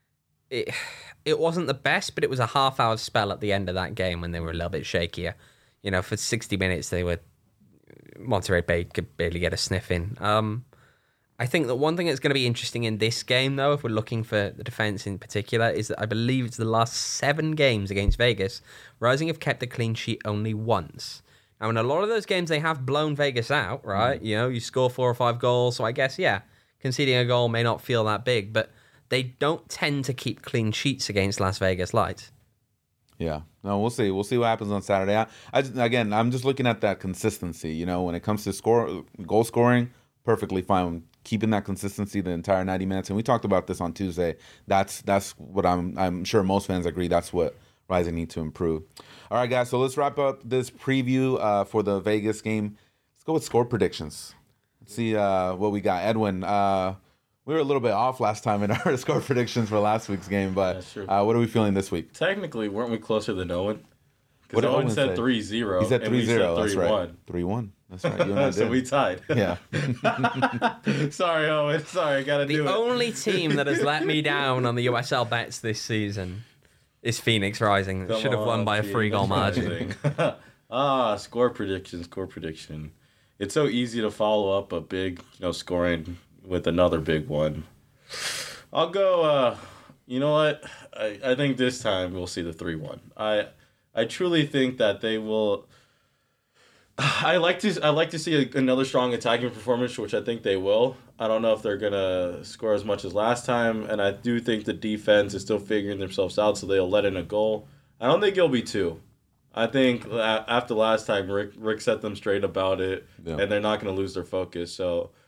It it wasn't the best, but it was a half-hour spell at the end of that game when they were a little bit shakier. You know, for sixty minutes, they were... Monterrey Bay could barely get a sniff in. Um, I think that one thing that's going to be interesting in this game, though, if we're looking for the defence in particular, is that I believe it's the last seven games against Vegas, Rising have kept a clean sheet only once. Now, in a lot of those games, they have blown Vegas out, right? Mm. You know, you score four or five goals, so I guess, yeah, conceding a goal may not feel that big, but... they don't tend to keep clean sheets against Las Vegas Lights. Yeah. No, we'll see. We'll see what happens on Saturday. I, I just, again, I'm just looking at that consistency. You know, when it comes to score, goal scoring, perfectly fine. Keeping that consistency the entire ninety minutes. And we talked about this on Tuesday. That's that's what I'm I'm sure most fans agree. That's what Rising need to improve. All right, guys. So let's wrap up this preview uh, for the Vegas game. Let's go with score predictions. Let's see uh, what we got. Edwin, uh, we were a little bit off last time in our score predictions for last week's game, but uh, what are we feeling this week? Technically, weren't we closer than Owen? Because Owen, Owen said three zero. He said three zero. That's right. one. three one. That's right. You and I so did. we tied. Yeah. Sorry, Owen. Sorry, I got to do it. The only team that has let me down on the U S L bets this season is Phoenix Rising. That should have won by a three goal margin. ah, score prediction, score prediction. It's so easy to follow up a big, you know, scoring with another big one. I'll go, uh, you know what? I, I think this time we'll see the three one. I I truly think that they will... I like to I like to see a, another strong attacking performance, which I think they will. I don't know if they're going to score as much as last time, and I do think the defense is still figuring themselves out, so they'll let in a goal. I don't think it'll be two. I think after last time, Rick Rick set them straight about it, yeah. and they're not going to lose their focus. So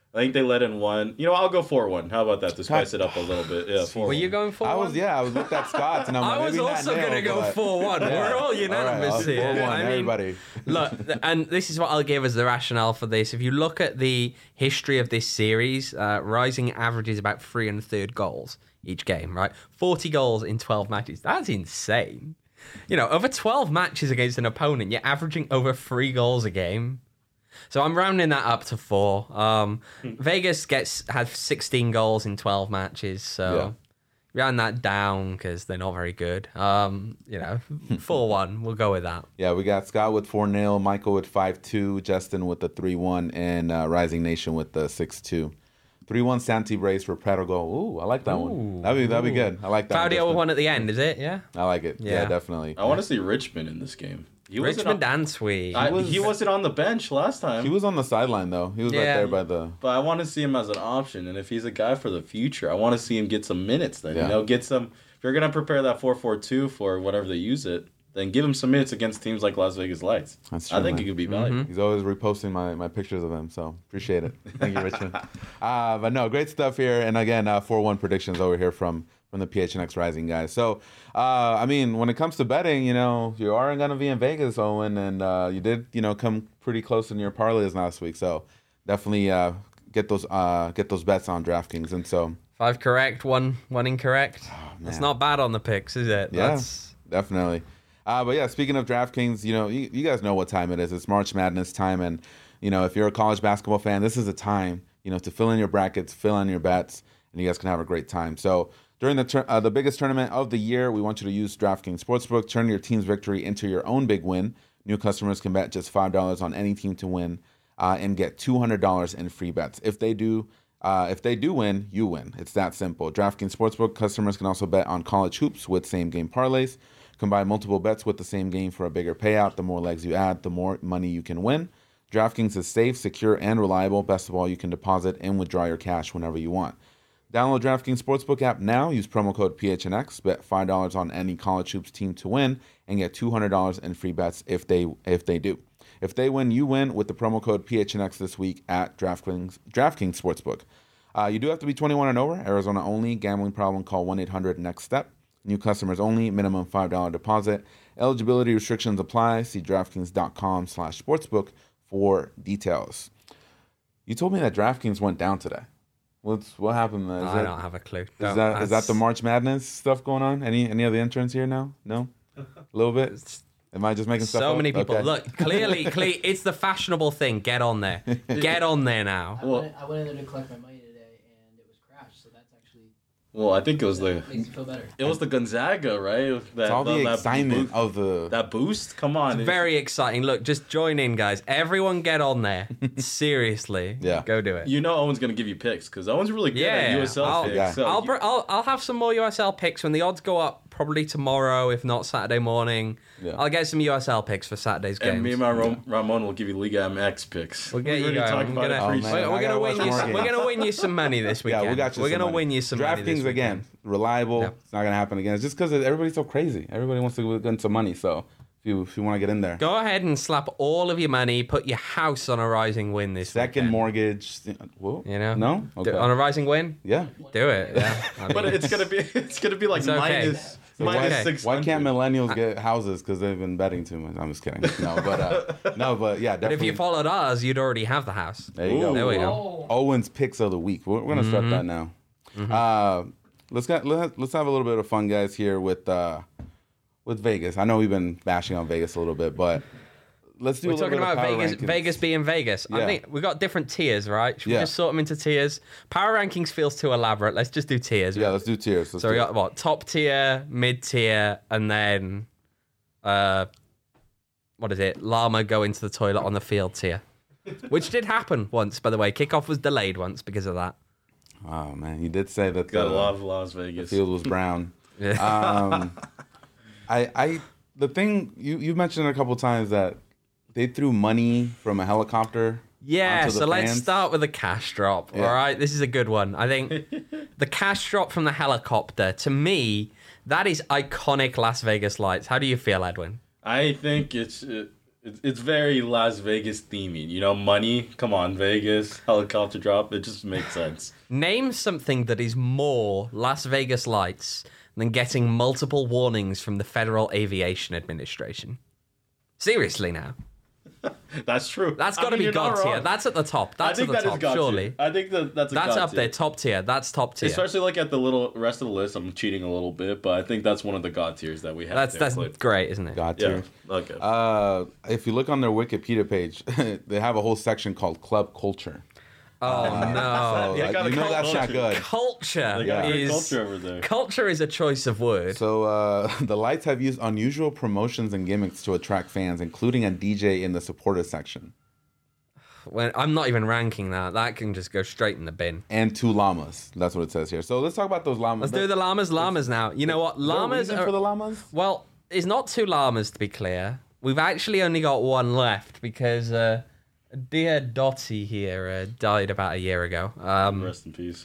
I think they let in one. You know, I'll go four one. How about that to spice it up a little bit? Yeah, four. Were you going for I one? was yeah, I was with that Scots, and I'm like, I was maybe not also nail, going to go but- four one. We're all unanimous all right, here. four one, I mean, everybody. look, th- and this is what I'll give as the rationale for this. If you look at the history of this series, uh, Rising averages about three and a third goals each game, right? forty goals in twelve matches. That's insane. You know, over twelve matches against an opponent, you're averaging over three goals a game. So I'm rounding that up to four. Um, Vegas gets had sixteen goals in twelve matches, so Yeah. round that down because they're not very good. Um, you know, four one. We'll go with that. Yeah, we got Scott with four nil, Michael with five two, Justin with the three one, and uh, Rising Nation with the six two. three one Santi Brace for Prato goal. Ooh, I like that one. That'd be, that'd be good. I like that Claudio one. one at the end, is it? Yeah. I like it. Yeah, Yeah. definitely. I want to see Richmond in this game. He wasn't Richmond on, and Sweet. I, was- he wasn't on the bench last time. He was on the sideline, though. He was right Yeah. there by the... But I want to see him as an option, and if he's a guy for the future, I want to see him get some minutes. Then Yeah. you know, get some. If you're gonna prepare that four four two for whatever they use it, then give him some minutes against teams like Las Vegas Lights. That's I true, think man. it could be valuable. He's always reposting my, my pictures of him, so appreciate it. Thank you, Richmond. uh, but no, great stuff here. And again, uh, four one predictions over here from from the P H N X Rising guys. So, uh, I mean, when it comes to betting, you know, you are going to be in Vegas, Owen, and uh, you did, you know, come pretty close in your parlays last week. So definitely uh, get those uh, get those bets on DraftKings. And so, Five correct, one one incorrect. That's man. not bad on the picks, is it? yeah, That's definitely. Uh, but yeah, speaking of DraftKings, you know, you, you guys know what time it is. It's March Madness time, and you know, if you're a college basketball fan, this is a time, you know, to fill in your brackets, fill in your bets, and you guys can have a great time. So during the tur- uh, the biggest tournament of the year, we want you to use DraftKings Sportsbook. Turn your team's victory into your own big win. New customers can bet just five dollars on any team to win, uh, and get two hundred dollars in free bets. If they do. Uh, if they do win, you win. It's that simple. DraftKings Sportsbook customers can also bet on college hoops with same-game parlays. Combine multiple bets with the same game for a bigger payout. The more legs you add, the more money you can win. DraftKings is safe, secure, and reliable. Best of all, you can deposit and withdraw your cash whenever you want. Download DraftKings Sportsbook app now. Use promo code P H N X. Bet five dollars on any college hoops team to win and get two hundred dollars in free bets if they if they do. If they win, you win with the promo code P H N X this week at DraftKings, DraftKings Sportsbook. Uh, you do have to be twenty-one and over. Arizona only. Gambling problem, call one eight hundred next step. New customers only. Minimum five dollars deposit. Eligibility restrictions apply. See DraftKings.com slash sportsbook for details. You told me that DraftKings went down today. What's what happened? Is I that, don't have a clue. Is Don't- that is that the that's- March Madness stuff going on? Any any of the entrants here now? No, a little bit. Am I just making stuff So up? many people. Okay. Look, clearly, clearly, it's the fashionable thing. Get on there. Get on there now. I, Well- went, I went in there to collect my money today, and it was crashed. So that's actually Well, I think it was the makes me feel better. it was the Gonzaga, right? That, It's all the that excitement boost, of the. that boost. Come on, It's very exciting. Look, just join in, guys. Everyone get on there. Seriously. Yeah. Go do it. You know, Owen's gonna give you picks because Owen's really good Yeah, at U S L I'll- picks. Yeah. So I'll, you- br- I'll I'll have some more U S L picks when the odds go up. Probably tomorrow, if not Saturday morning. Yeah. I'll get some U S L picks for Saturday's games. and me and my Ram- Ramon will give you Liga M X picks. We'll get We you already going. talked I'm about it gonna- Oh, pre- man. We're, I we're gotta gonna watch win you. more Some, we're games. gonna win you some money this weekend. Yeah, we got you. We're some gonna money. win you some money this DraftKings again, weekend. reliable. Yeah. It's not gonna happen again. It's just because everybody's so crazy. Everybody wants to get some money. So if you if you want to get in there, Go ahead and slap all of your money. Put your house on a rising win this second weekend. mortgage. Whoa. You know? No. Do- Okay. on a rising win. Yeah. Do it. Yeah. I But mean, it's gonna be it's gonna be like It's okay. minus So minus why- six. Why can't millennials get houses? Because they've been betting too much. I'm just kidding. No, but uh, no, but yeah, but definitely. if you followed us, you'd already have the house. there you go. There we go. Oh, Owen's picks of the week. We're, we're gonna start Mm-hmm. that now. Uh, let's get let's let's have a little bit of fun, guys, here with uh, with Vegas. I know we've been bashing on Vegas a little bit, but let's do. We're a little talking bit of about power Vegas, rankings. Vegas being Vegas. I Yeah. think we got different tiers, right? Should Yeah. we just sort them into tiers? Power rankings feels too elaborate. Let's just do tiers. Yeah, let's do tiers. Let's So we do got it. what? Top tier, mid tier, and then uh what is it? Llama go into the toilet on the field tier. Which did happen once, by the way. Kickoff was delayed once because of that. Oh man, you did say that Gotta the love Las Vegas. field was brown. Yeah. Um, I I the thing you you mentioned a couple times that they threw money from a helicopter. Yeah, onto the so let's fans. start with the cash drop. Yeah. All right, this is a good one. I think the cash drop from the helicopter, to me, that is iconic Las Vegas lights. How do you feel, Edwin? I think it's uh, It's, it's very Las Vegas theming. You know, money. Come on, Vegas helicopter drop. It just makes sense. Name something that is more Las Vegas lights than getting multiple warnings from the Federal Aviation Administration. Seriously now. That's true. That's got to I mean, be you're not God tier. wrong. That's at the top. I That's think at the that is top, God surely. tier. I think that that's a That's God up tier. there, top tier. That's top tier. Especially like at the little rest of the list. I'm cheating a little bit, but I think that's one of the God tiers that we have. That's there, that's Cliff. great, isn't it? God Yeah. tier. Okay. Uh, if you look on their Wikipedia page, they have a whole section called Club Culture. Oh So, no. Yeah, like, got a you know cult that's not culture. good. Culture They got great is culture over there. culture is a choice of word. So uh, the Lights have used unusual promotions and gimmicks to attract fans, including a D J in the supporter section When I'm not even ranking that, that can just go straight in the bin. and two llamas. That's what it says here. So let's talk about those llamas. Let's do the llamas, llamas now. You know what? Is there a Llamas reason are for the llamas. well. It's not two llamas to be clear. We've actually only got one left because uh, dear Dottie here uh, died about a year ago. Um, Rest in peace.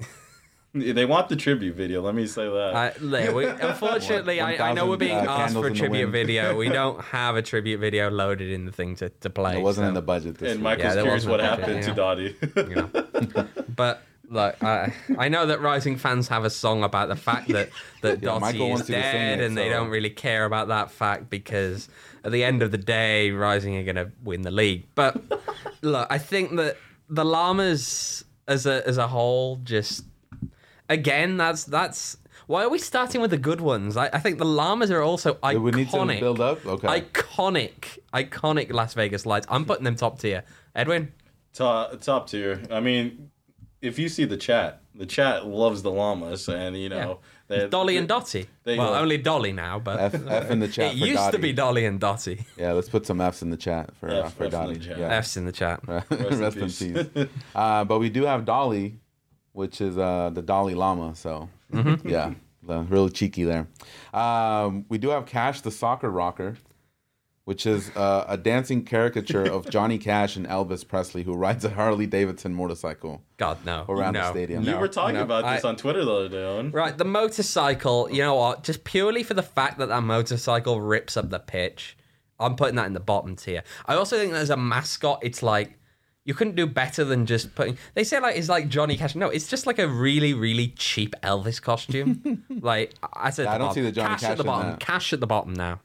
They want the tribute video. Let me say that. I, there, we, unfortunately, One- I, I know we're being one thousand, uh, asked for a candles in the tribute wind. video. We don't have a tribute video loaded in the thing to, to play. It wasn't so, in the budget this and week. Michael's Yeah, there curious wasn't what a budget, happened yeah. to Dottie. you know. But look, I, I know that Rising fans have a song about the fact that that Yeah, Dottie Michael is wants you to sing dead, it, and they so- don't really care about that fact because at the end of the day, Rising are going to win the league. But look, I think that the Llamas as a as a whole just. Again, that's that's why are we starting with the good ones? I, I think the Llamas are also iconic. We need to build up? Okay. Iconic, iconic Las Vegas Lights. I'm putting them top tier. Edwin, top, top tier. I mean, if you see the chat, the chat loves the llamas, and you know, they, Dolly and Dottie. There you Well, go. only Dolly now, but F, F in the chat it for used Dottie. to be Dolly and Dottie. Yeah, let's put some F's in the chat for uh, F- for F in the Dottie. chat. Yeah. F's in the chat. Rest, in peace. uh, but we do have Dolly, which is uh, the Dalai Lama. So Mm-hmm. yeah, the, really cheeky there. Um, we do have Cash, the soccer rocker, which is uh, a dancing caricature of Johnny Cash and Elvis Presley, who rides a Harley Davidson motorcycle God, no. around no, the stadium. we no, were talking no. about this I- on Twitter the other day, Owen. Right, the motorcycle, you know what? Just purely for the fact that that motorcycle rips up the pitch, I'm putting that in the bottom tier. I also think that as a mascot, it's like, you couldn't do better than just putting. They say like it's like Johnny Cash. No, it's just like a really, really cheap Elvis costume. like I said, I don't see the Johnny Cash Cash at the in bottom. that. Cash at the bottom now.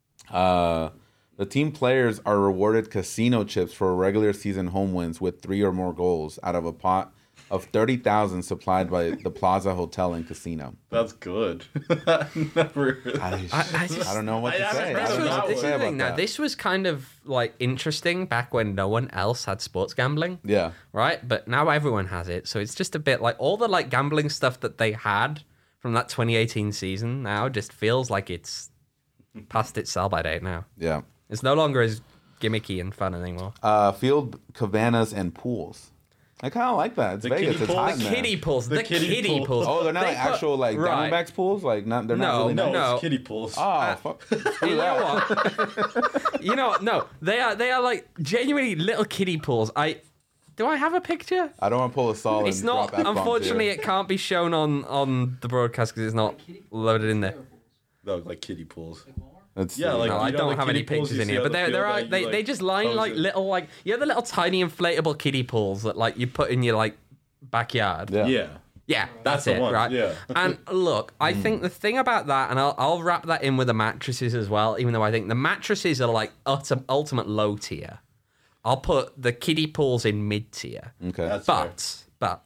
Uh, the team players are rewarded casino chips for regular season home wins with three or more goals out of a pot of thirty thousand supplied by the Plaza Hotel and Casino. That's good. Never. I, I- I just- I don't know what I to haven't say. heard I This don't of know was, that what this to is say the about thing. Now, that. this was kind of like interesting back when no one else had sports gambling. Yeah. Right, but now everyone has it, so it's just a bit like all the like gambling stuff that they had from that twenty eighteen season now just feels like it's past its sell by date now. Yeah. It's no longer as gimmicky and fun anymore. Uh, field cabanas and pools. I kind of like that. It's The Vegas. kiddie It's pools? hot The in there. kiddie pools, the, The kiddie, kiddie pools. pools. Oh, they're not They like put- actual like right. Diamondbacks pools. Like not. They're not No, really. No, nice. no. it's kiddie pools. Oh, fuck. Screw You that. know what? you know what? No, they are they are like genuinely little kiddie pools. I do I have a picture? I don't want to pull a solid. It's not. Unfortunately, it can't be shown on on the broadcast because it's not loaded in there. No, like kiddie pools. It's, Yeah, like- No, you I know, don't the have any kiddie pools pictures you in see here, on but the there, field there are. that you, They, like, they just line pose like it. little like you know the little tiny inflatable kiddie pools that like you put in your like backyard. Yeah. Yeah. Yeah, That's that's, the it, one, right? yeah. And look, I think the thing about that, and I'll, I'll wrap that in with the mattresses as well, even though I think the mattresses are like utter, ultimate low tier. I'll put the kiddie pools in mid tier. Okay. That's fair. But, but,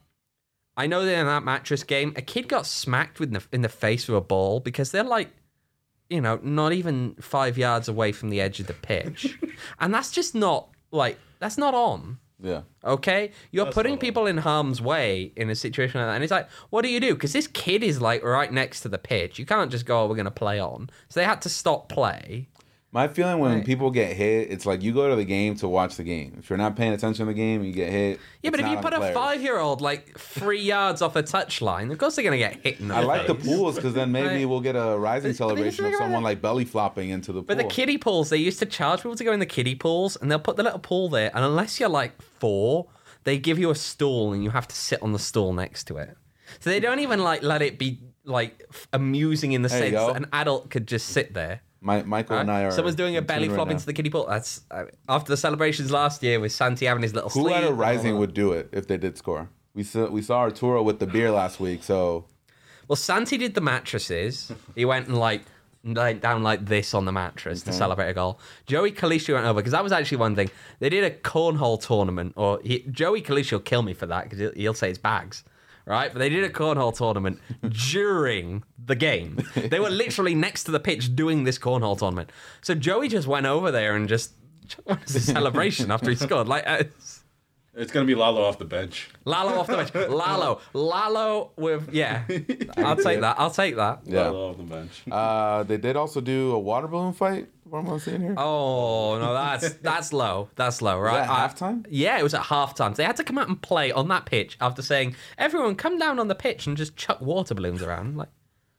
I know that in that mattress game, a kid got smacked with the, in the face with a ball because they're like, you know, not even five yards away from the edge of the pitch. And that's just not, like, that's not on. Yeah. Okay, you're That's putting not people in harm's way in a situation like that, and it's like, what do you do? Because this kid is like right next to the pitch. You can't just go, "Oh, we're going to play on." So they had to stop play. My feeling when Right. people get hit, it's like you go to the game to watch the game. If you're not paying attention to the game, you get hit. Yeah, but it's if you not put on the a players. five-year-old like three yards off a touchline, of course they're going to get hit in the I like the face. pools because then maybe Right. we'll get a rising But- but celebration think of about someone it. like belly flopping into the pool. But the kiddie pools, they used to charge people to go in the kiddie pools, and they'll put the little pool there, and unless you're like four, they give you a stool, and you have to sit on the stool next to it. So they don't even like let it be like f- amusing in the There you sense go. that an adult could just sit there. My, Michael Right? and I are. Someone's doing a in belly tune flop right into the kiddie pool. That's uh, after the celebrations last year with Santi having his little Who sleeve. at a and all Rising that. would do it if they did score? We saw we saw Arturo with the beer last week, so Well, Santi did the mattresses. He went and like laid down like this on the mattress to celebrate a goal. Joey Calicio went over because that was actually one thing. They did a cornhole tournament, or he, Joey Calicio will kill me for that because he'll, he'll say it's bags, right? But they did a cornhole tournament during the game. They were literally next to the pitch doing this cornhole tournament. So Joey just went over there and just what is the celebration after he scored? Like. Uh, It's gonna be Lalo off the bench. Lalo off the bench. Lalo. Lalo with, yeah. I'll take that. I'll take that. yeah. Lalo off the bench. Uh, they did also do a water balloon fight. What am I seeing here? Oh, no, that's that's low. That's low, right? that I- halftime? Yeah, it was at halftime. They had to come out and play on that pitch after saying, everyone come down on the pitch and just chuck water balloons around. Like,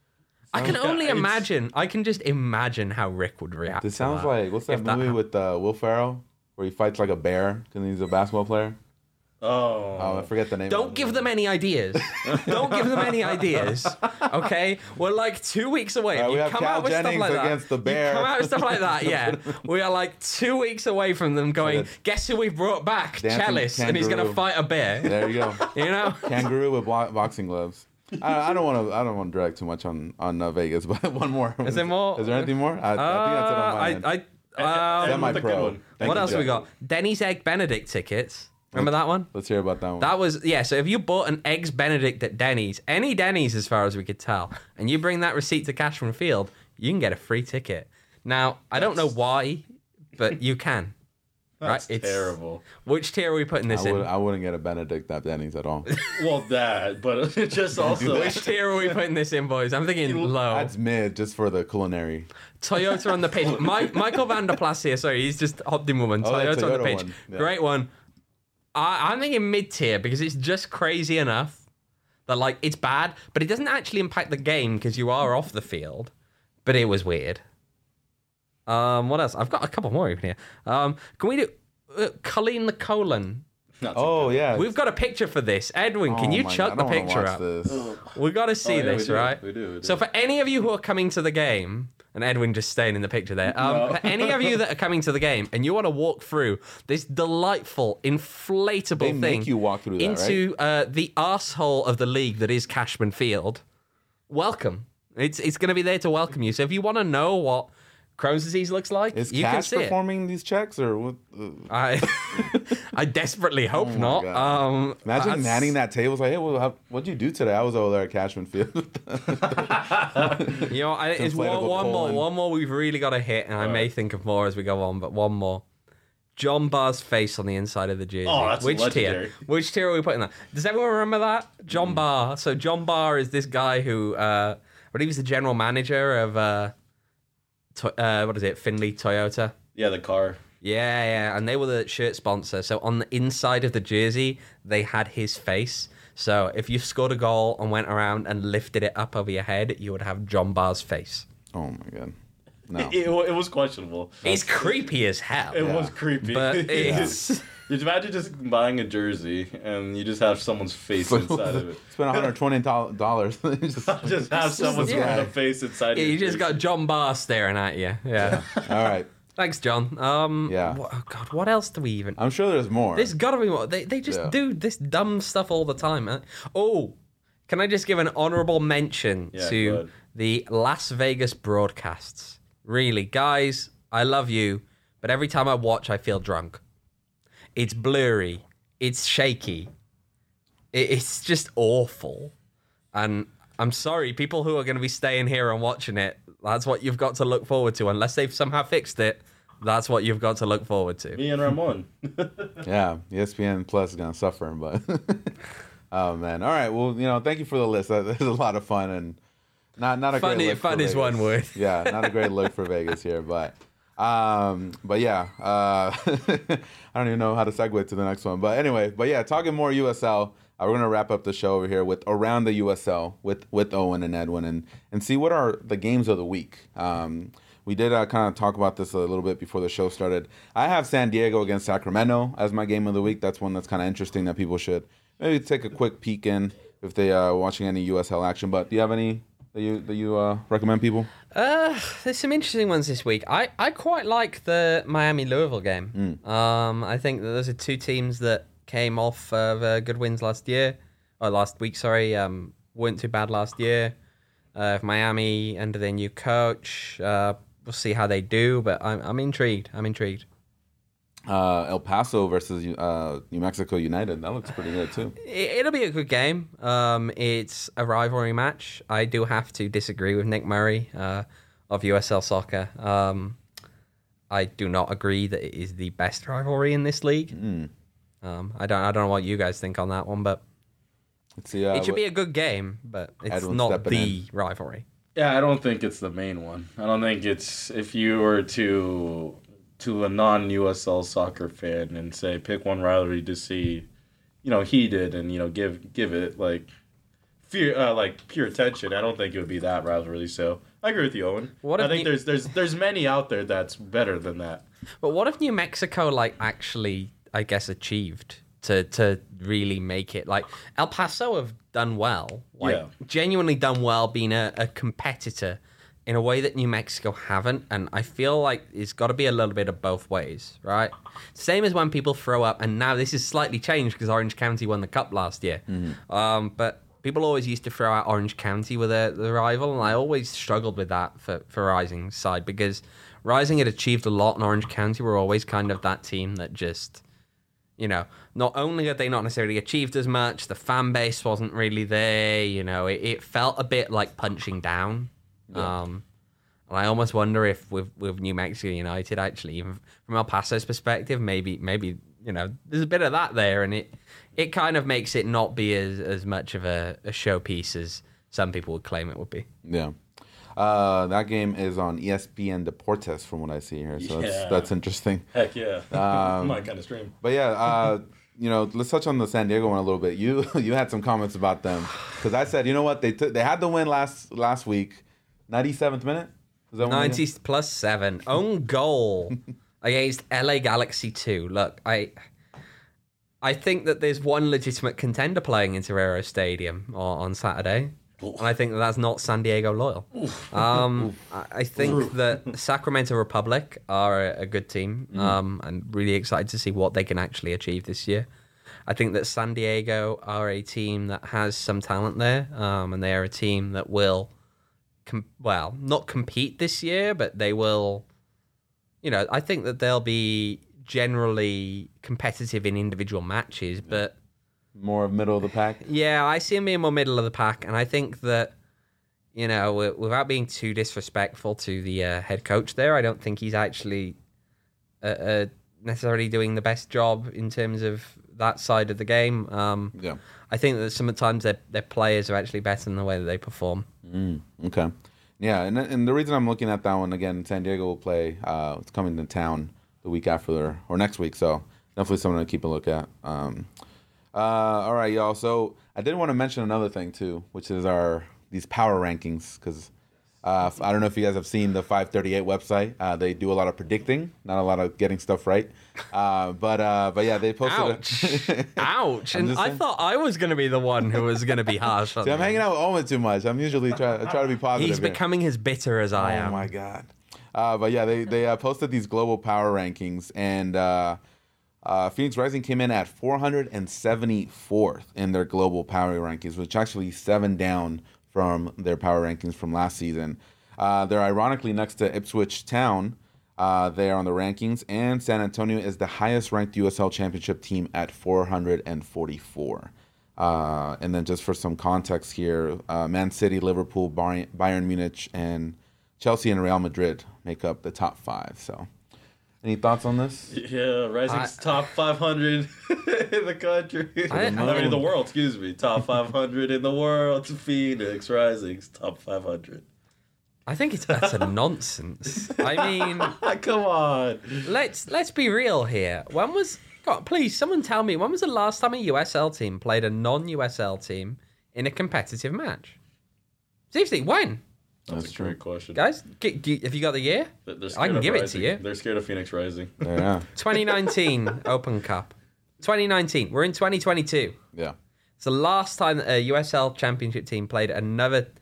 I can Yeah, only it's- imagine, I can just imagine how Rick would react This to sounds that. like what's that if that movie hap- with uh, Will Ferrell where he fights like a bear because he's a basketball player? Oh. Oh, I forget the name. Don't of give it. them any ideas. Don't give them any ideas. Okay, we're like two weeks away. Uh, we you have come Cal out with stuff Jennings like that. against the Bear. You come out with stuff like that. Yeah, we are like two weeks away from them going. it's- Guess who we've brought back? Dancing Chalice, and he's gonna kangaroo. fight a bear. There you go. You know. Kangaroo with bo- boxing gloves. I, I don't want to. I don't want to drag too much on on uh, Vegas, but one more. Is there more? Is there anything more? I, I think that's it on my Uh, end. I, I, um, Semi- Semi-pro. one. Thank what you, else Jack. we got? Denny's Egg Benedict tickets. Remember that one? Let's hear about that one. That was, yeah, so if you bought an Eggs Benedict at Denny's, any Denny's as far as we could tell, and you bring that receipt to Cashman Field, you can get a free ticket. Now, I don't know why, but you can. That's right? It's terrible. Which tier are we putting this I, in? would, I wouldn't get a Benedict at Denny's at all. Well, that, but just also. Which tier are we putting this in, boys? I'm thinking low. That's mid just for the culinary. Toyota on the pitch. My, Michael Van der Plas here, sorry, he's just hopped in woman. Oh, the Toyota, on the Toyota pitch. one, yeah. Great one. I, I'm thinking mid tier because it's just crazy enough that, like, it's bad, but it doesn't actually impact the game because you are off the field. But it was weird. Um, what else? I've got a couple more even here. Um, can we do uh, Colleen the colon? Not too Oh good. yeah. We've got a picture for this. Edwin, can Oh you my chuck God, the I don't picture wanna up? watch this. We got to see Oh, yeah, this, we do. right? We do, we do. So for any of you who are coming to the game, and Edwin just staying in the picture there, um, No. for any of you that are coming to the game and you want to walk through this delightful, inflatable They thing make you walk through that, into uh, the arsehole of the league that is Cashman Field, welcome. It's it's going to be there to welcome you. So if you want to know what Crohn's disease looks like, Is you can Cash see it. performing these checks or what? Uh, I I desperately hope Oh my not. God. Um, imagine that's- manning that table. It's like, hey, well, how, what'd you do today? I was over there at Cashman Field. You know, I, it's one, inflatable one more. colon. One more we've really got to hit, and I may Alright. think of more as we go on, but one more. John Barr's face on the inside of the jersey. Oh, that's Which legendary. tier? Which tier are we putting that? Does everyone remember that? John Barr. So John Barr is this guy who, uh, but he was the general manager of, uh, to, uh, what is it, Finley Toyota? Yeah, the car. Yeah, yeah, and they were the shirt sponsor. So on the inside of the jersey, they had his face. So if you scored a goal and went around and lifted it up over your head, you would have John Barr's face. Oh my god. No. It, it, it was questionable. It's creepy as hell. It Yeah. was creepy. But it's Just imagine just buying a jersey and you just have someone's face inside of it. Spent one hundred twenty dollars. just, Just have someone's yeah. random face inside. Yeah, your you just got jersey. John Barr staring at you. Yeah. all right. Thanks, John. Um, Yeah. wha- oh God, what else do we even? I'm sure there's more. There's got to be more. They they just Yeah. do this dumb stuff all the time. Man. Oh, can I just give an honorable mention Yeah, go to ahead. the Las Vegas broadcasts? Really, guys, I love you, but every time I watch, I feel drunk. It's blurry. It's shaky. It, it's just awful. And I'm sorry, people who are going to be staying here and watching it, that's what you've got to look forward to. Unless they've somehow fixed it, that's what you've got to look forward to. Me and Ramon. Yeah, E S P N Plus is gonna suffer, but oh man. All right. Well, you know, thank you for the list. That that was a lot of fun and not not a Fun great i- look fun for is Vegas. one word. Yeah, not a great look for Vegas here, but um, but yeah, uh, I don't even know how to segue to the next one. But anyway, but yeah, talking more U S L. Uh, we're gonna wrap up the show over here with around the U S L with with Owen and Edwin and and see what are the games of the week. Um, we did uh, kind of talk about this a little bit before the show started. I have San Diego against Sacramento as my game of the week. That's one that's kind of interesting that people should maybe take a quick peek in if they are watching any U S L action. But do you have any that you that you uh, recommend people? Uh, there's some interesting ones this week. I, I quite like the Miami Louisville game. Mm. Um, I think that those are two teams that came off of uh, good wins last year, or last week. Sorry, um, weren't too bad last year. Uh, if Miami under their new coach, uh, we'll see how they do. But I'm I'm intrigued. I'm intrigued. Uh, El Paso versus uh, New Mexico United. That looks pretty good too. It, it'll be a good game. Um, it's a rivalry match. I do have to disagree with Nick Murray uh, of U S L Soccer. Um, I do not agree that it is the best rivalry in this league. Mm. Um, I don't. I don't know what you guys think on that one, but Let's see. Uh, it should what- be a good game. But it's Edwin not stepping the rivalry. Yeah, I don't think it's the main one. I don't think it's if you were to to a non-U S L soccer fan and say pick one rivalry to see, you know, heated and you know give give it like fear uh, like pure attention. I don't think it would be that rivalry. So I agree with you, Owen. What I if think you- there's there's there's many out there that's better than that. But what if New Mexico like actually, I guess, achieved to to really make it? Like El Paso have done well, like Yeah. genuinely done well, being a, a competitor in a way that New Mexico haven't, and I feel like it's got to be a little bit of both ways, right? Same as when people throw up, and now this is slightly changed because Orange County won the cup last year. Um, but people always used to throw out Orange County with a, the rival, and I always struggled with that for, for Rising's side because Rising had achieved a lot, and Orange County were always kind of that team that just, you know, not only had they not necessarily achieved as much, the fan base wasn't really there, you know, it, it felt a bit like punching down. Yeah. Um, and I almost wonder if with, with New Mexico United, actually, even from El Paso's perspective, maybe, maybe you know, there's a bit of that there, and it it kind of makes it not be as, as much of a, a showpiece as some people would claim it would be. Yeah. Uh, that game is on E S P N Deportes from what I see here. So Yeah. that's, that's interesting. Heck yeah, Um, my kind of stream. But yeah, uh, you know, let's touch on the San Diego one a little bit. You you had some comments about them because I said, you know what, they took they had the win last last week, ninety-seventh minute. Is that when they- ninety plus seven. Own goal against L A Galaxy two. Look, I I think that there's one legitimate contender playing in Torero Stadium on, on Saturday. And I think that that's not San Diego Loyal. Um, I, I think that Sacramento Republic are a, a good team. Um, I'm really excited to see what they can actually achieve this year. I think that San Diego are a team that has some talent there, um, and they are a team that will, com- well, not compete this year, but they will, you know, I think that they'll be generally competitive in individual matches, but more middle of the pack. yeah, I see him being more middle of the pack, and I think that, you know, wi- without being too disrespectful to the uh, head coach there, I don't think he's actually uh, uh, necessarily doing the best job in terms of that side of the game. Um, Yeah. I think that sometimes their their players are actually better than the way that they perform. Mm, okay. Yeah, and and the reason I'm looking at that one again, San Diego will play. Uh, it's coming to town the week after their, or next week, so definitely something to keep a look at. Um, uh, all right, y'all. So I did want to mention another thing too, which is our these power rankings, because uh, I don't know if you guys have seen the five thirty-eight website. Uh, they do a lot of predicting, not a lot of getting stuff right. Uh, but uh, but yeah, they posted. Ouch! A Ouch! I'm And just I saying. thought I was going to be the one who was going to be harsh. On See, I'm them. hanging out with Owen too much. I'm usually try I try to be positive. He's here. becoming as bitter as I Oh am. my god! Uh, but yeah, they they uh, posted these global power rankings, and uh, uh, Phoenix Rising came in at four hundred seventy-fourth in their global power rankings, which actually seven down from their power rankings from last season. Uh, they're ironically next to Ipswich Town. Uh, they are on the rankings, and San Antonio is the highest ranked U S L Championship team at four hundred forty-four. Uh, and then just for some context here, uh, Man City, Liverpool, Bayern, Bayern Munich, and Chelsea and Real Madrid make up the top five. So, any thoughts on this? Yeah, Rising's I- top five hundred in the country. I- I, mean, in the world, excuse me. Top five hundred in the world. Phoenix Rising's top five hundred. I think it's utter nonsense. I mean, Come on. let's let's be real here. When was God, please someone tell me when was the last time a U S L team played a non-U S L team in a competitive match? Seriously, when? That's, That's a true. great question. Guys, g- g- have you got the year? They're- they're I scared can of give it to Rising. you. They're scared of Phoenix Rising. Yeah, twenty nineteen Open Cup. twenty nineteen. We're in twenty twenty-two. yeah. It's the last time that a U S L championship team played another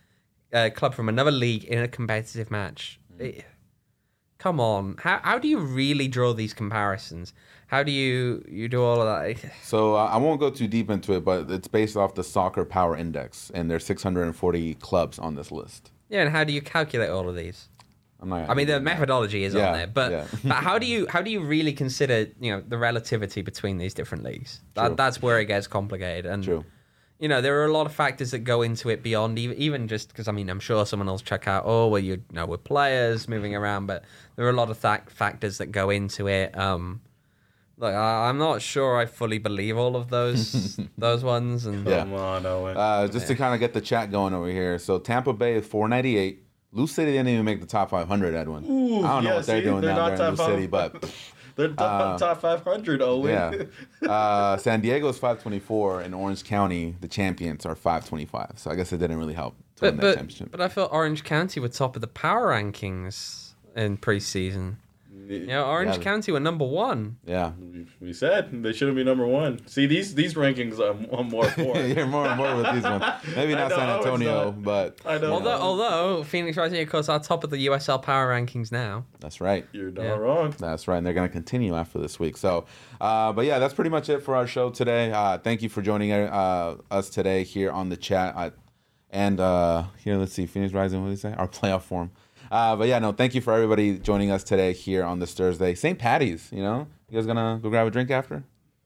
uh, club from another league in a competitive match. It, come on, how how do you really draw these comparisons? How do you you do all of that? So uh, I won't go too deep into it, but it's based off the Soccer Power Index, and there's six hundred forty clubs on this list. Yeah, and how do you calculate all of these? I'm not. I mean, the methodology is Yeah, on there, but, yeah. but how do you how do you really consider you know the relativity between these different leagues? True. That, that's where it gets complicated. And True. you know, there are a lot of factors that go into it beyond even, even just because I mean, I'm sure someone will check out, oh, well, you know, with players moving around, but there are a lot of th- factors that go into it. Um, look, I, I'm not sure I fully believe all of those those ones. And Yeah. Come on, Owen. Uh, just to kind of get the chat going over here. So Tampa Bay is four ninety-eight. Lou City didn't even make the top five hundred, Edwin. Ooh, I don't know yeah, what they're see, doing they're down not there in Lou top City, five. but They're top, uh, top five hundred, Owen. yeah. Uh, San Diego's five twenty-four, and Orange County, the champions, are five twenty-five. So I guess it didn't really help to win but that but, championship. but I felt Orange County were top of the power rankings in preseason. You know, Orange Yeah. County were number one. Yeah. We, we said they shouldn't be number one. See, these these rankings I'm, I'm more for. You're more and more with these ones. Maybe I not know, San I was Antonio, not. but I know. Although, although Phoenix Rising, of course, are top of the U S L power rankings now. that's right. You're not Yeah. wrong. That's right, and they're going to continue after this week. So, uh, but yeah, that's pretty much it for our show today. Uh, thank you for joining uh, us today here on the chat. I, and uh, here, let's see, Phoenix Rising, what did you say? Our playoff form. Uh, but yeah, no, thank you for everybody joining us today here on this Thursday. Saint Patty's, you know? You guys going to go grab a drink after?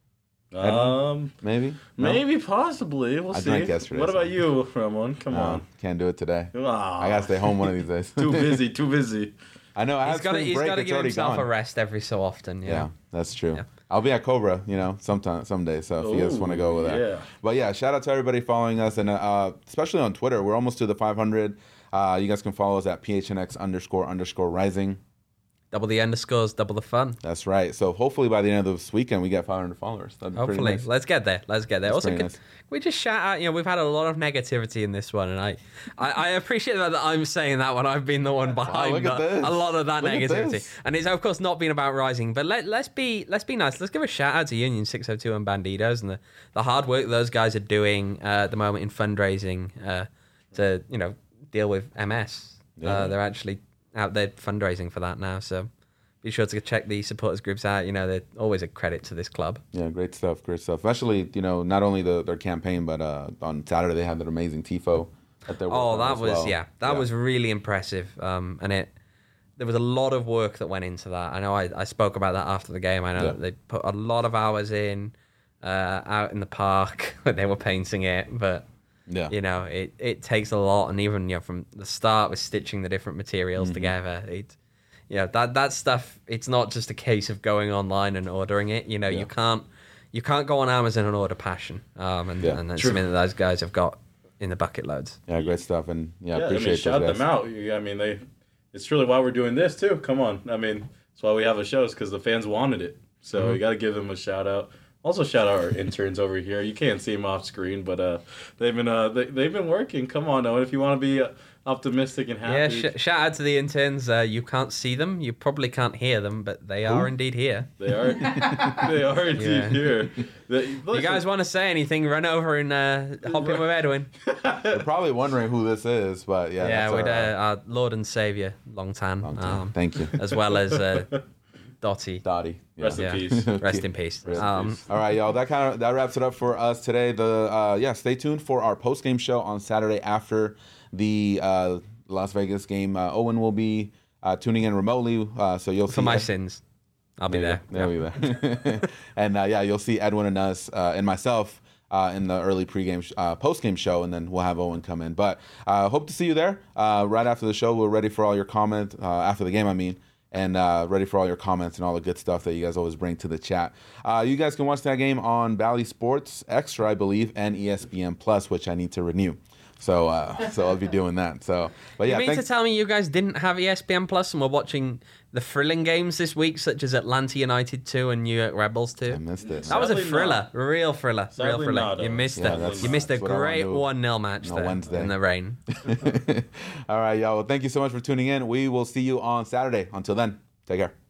Um, Maybe? No? maybe, possibly. We'll I see. drank yesterday, What so- about you, Ramon? Come No, on. can't do it today. Ah, I got to stay home one of these days. too busy. Too busy. I know, I He's have got to spring he's break, got to it's give already himself gone. a rest every so often. You Yeah, know? that's true. Yeah. I'll be at Cobra, you know, sometime, someday. So if you guys Ooh, want to go over there. yeah. But yeah, shout out to everybody following us, and uh, especially on Twitter. We're almost to the five hundred. Uh, you guys can follow us at P H N X underscore underscore rising. Double the underscores, double the fun. That's right. So hopefully by the end of this weekend, we get five hundred followers. That'd be pretty Hopefully, nice. let's get there. Let's get there. That's also, pretty can nice. we just shout out? You know, we've had a lot of negativity in this one, and I, I, I appreciate that I'm saying that when I've been the one behind look at the- this. a lot of that Look at negativity. this. And it's of course not been about Rising, but let let's be let's be nice. Let's give a shout out to Union six oh two and Bandidos and the, the hard work those guys are doing uh, at the moment in fundraising uh, to you know deal with M S. Yeah. Uh, they're actually out there fundraising for that now, so. Be sure to check the supporters groups out. You know, they're always a credit to this club. Yeah, great stuff. Great stuff. Especially, you know, not only the, their campaign, but uh, on Saturday they had that amazing Tifo that they're Oh, working on that as was well. yeah, that was really impressive. Um, and it there was a lot of work that went into that. I know I, I spoke about that after the game. I know Yeah. that they put a lot of hours in uh, out in the park when they were painting it, but Yeah. you know it, it takes a lot. And even you know from the start with stitching the different materials Mm-hmm. together, it you know that that stuff. It's not just a case of going online and ordering it. You know Yeah. you can't you can't go on Amazon and order Passion. Um, and Yeah. and that's True. something that those guys have got in the bucket loads. Yeah, great stuff. And yeah, Yeah, I appreciate mean, those shout guys. them out. You- I mean, they. It's truly why we're doing this too. Come on, I mean, that's why we have a show, is because the fans wanted it. So Mm-hmm. you got to give them a shout out. Also, shout out our interns over here. You can't see them off screen, but uh, they've been uh, they, they've been working. Come on, Owen, if you want to be uh, optimistic and Yeah, happy, sh- shout out to the interns. Uh, you can't see them, you probably can't hear them, but they are indeed here. they are they are indeed Yeah. here. They, You guys want to say anything? Run over and uh, hop in with Edwin. They're probably wondering who this is, but yeah. Yeah, that's with our, uh, our Lord and Savior, Long Tan, long time. um, Thank you. as well as uh, Dottie. Dottie. Yeah. Rest in Yeah. peace. Rest in peace. Rest in Um, peace. All right, y'all. That kind of that wraps it up for us today. The uh, yeah, stay tuned for our post game show on Saturday after the uh, Las Vegas game. Uh, Owen will be uh, tuning in remotely, uh, so you'll see for my Ed- sins, I'll be There there. you go. There we go. And uh, yeah, you'll see Edwin and us uh, and myself uh, in the early pregame, sh- uh, postgame show, and then we'll have Owen come in. But uh, hope to see you there uh, right after the show. We're ready for all your comments uh, after the game. I mean. And uh, ready for all your comments and all the good stuff that you guys always bring to the chat. Uh, you guys can watch that game on Bally Sports Extra, I believe, and E S P N Plus, which I need to renew. So, uh, so I'll be doing that. So, but yeah, You mean thank- to tell me you guys didn't have E S P N Plus and were watching the thrilling games this week, such as Atlanta United two and New York Rebels two? I missed it. That was a Sadly thriller, not. real thriller, real Sadly thriller. not, you uh, missed Yeah, it. that's- You missed a that's what I wanna great do one nil match on there Wednesday. in the rain. All right, y'all. Well, thank you so much for tuning in. We will see you on Saturday. Until then, take care.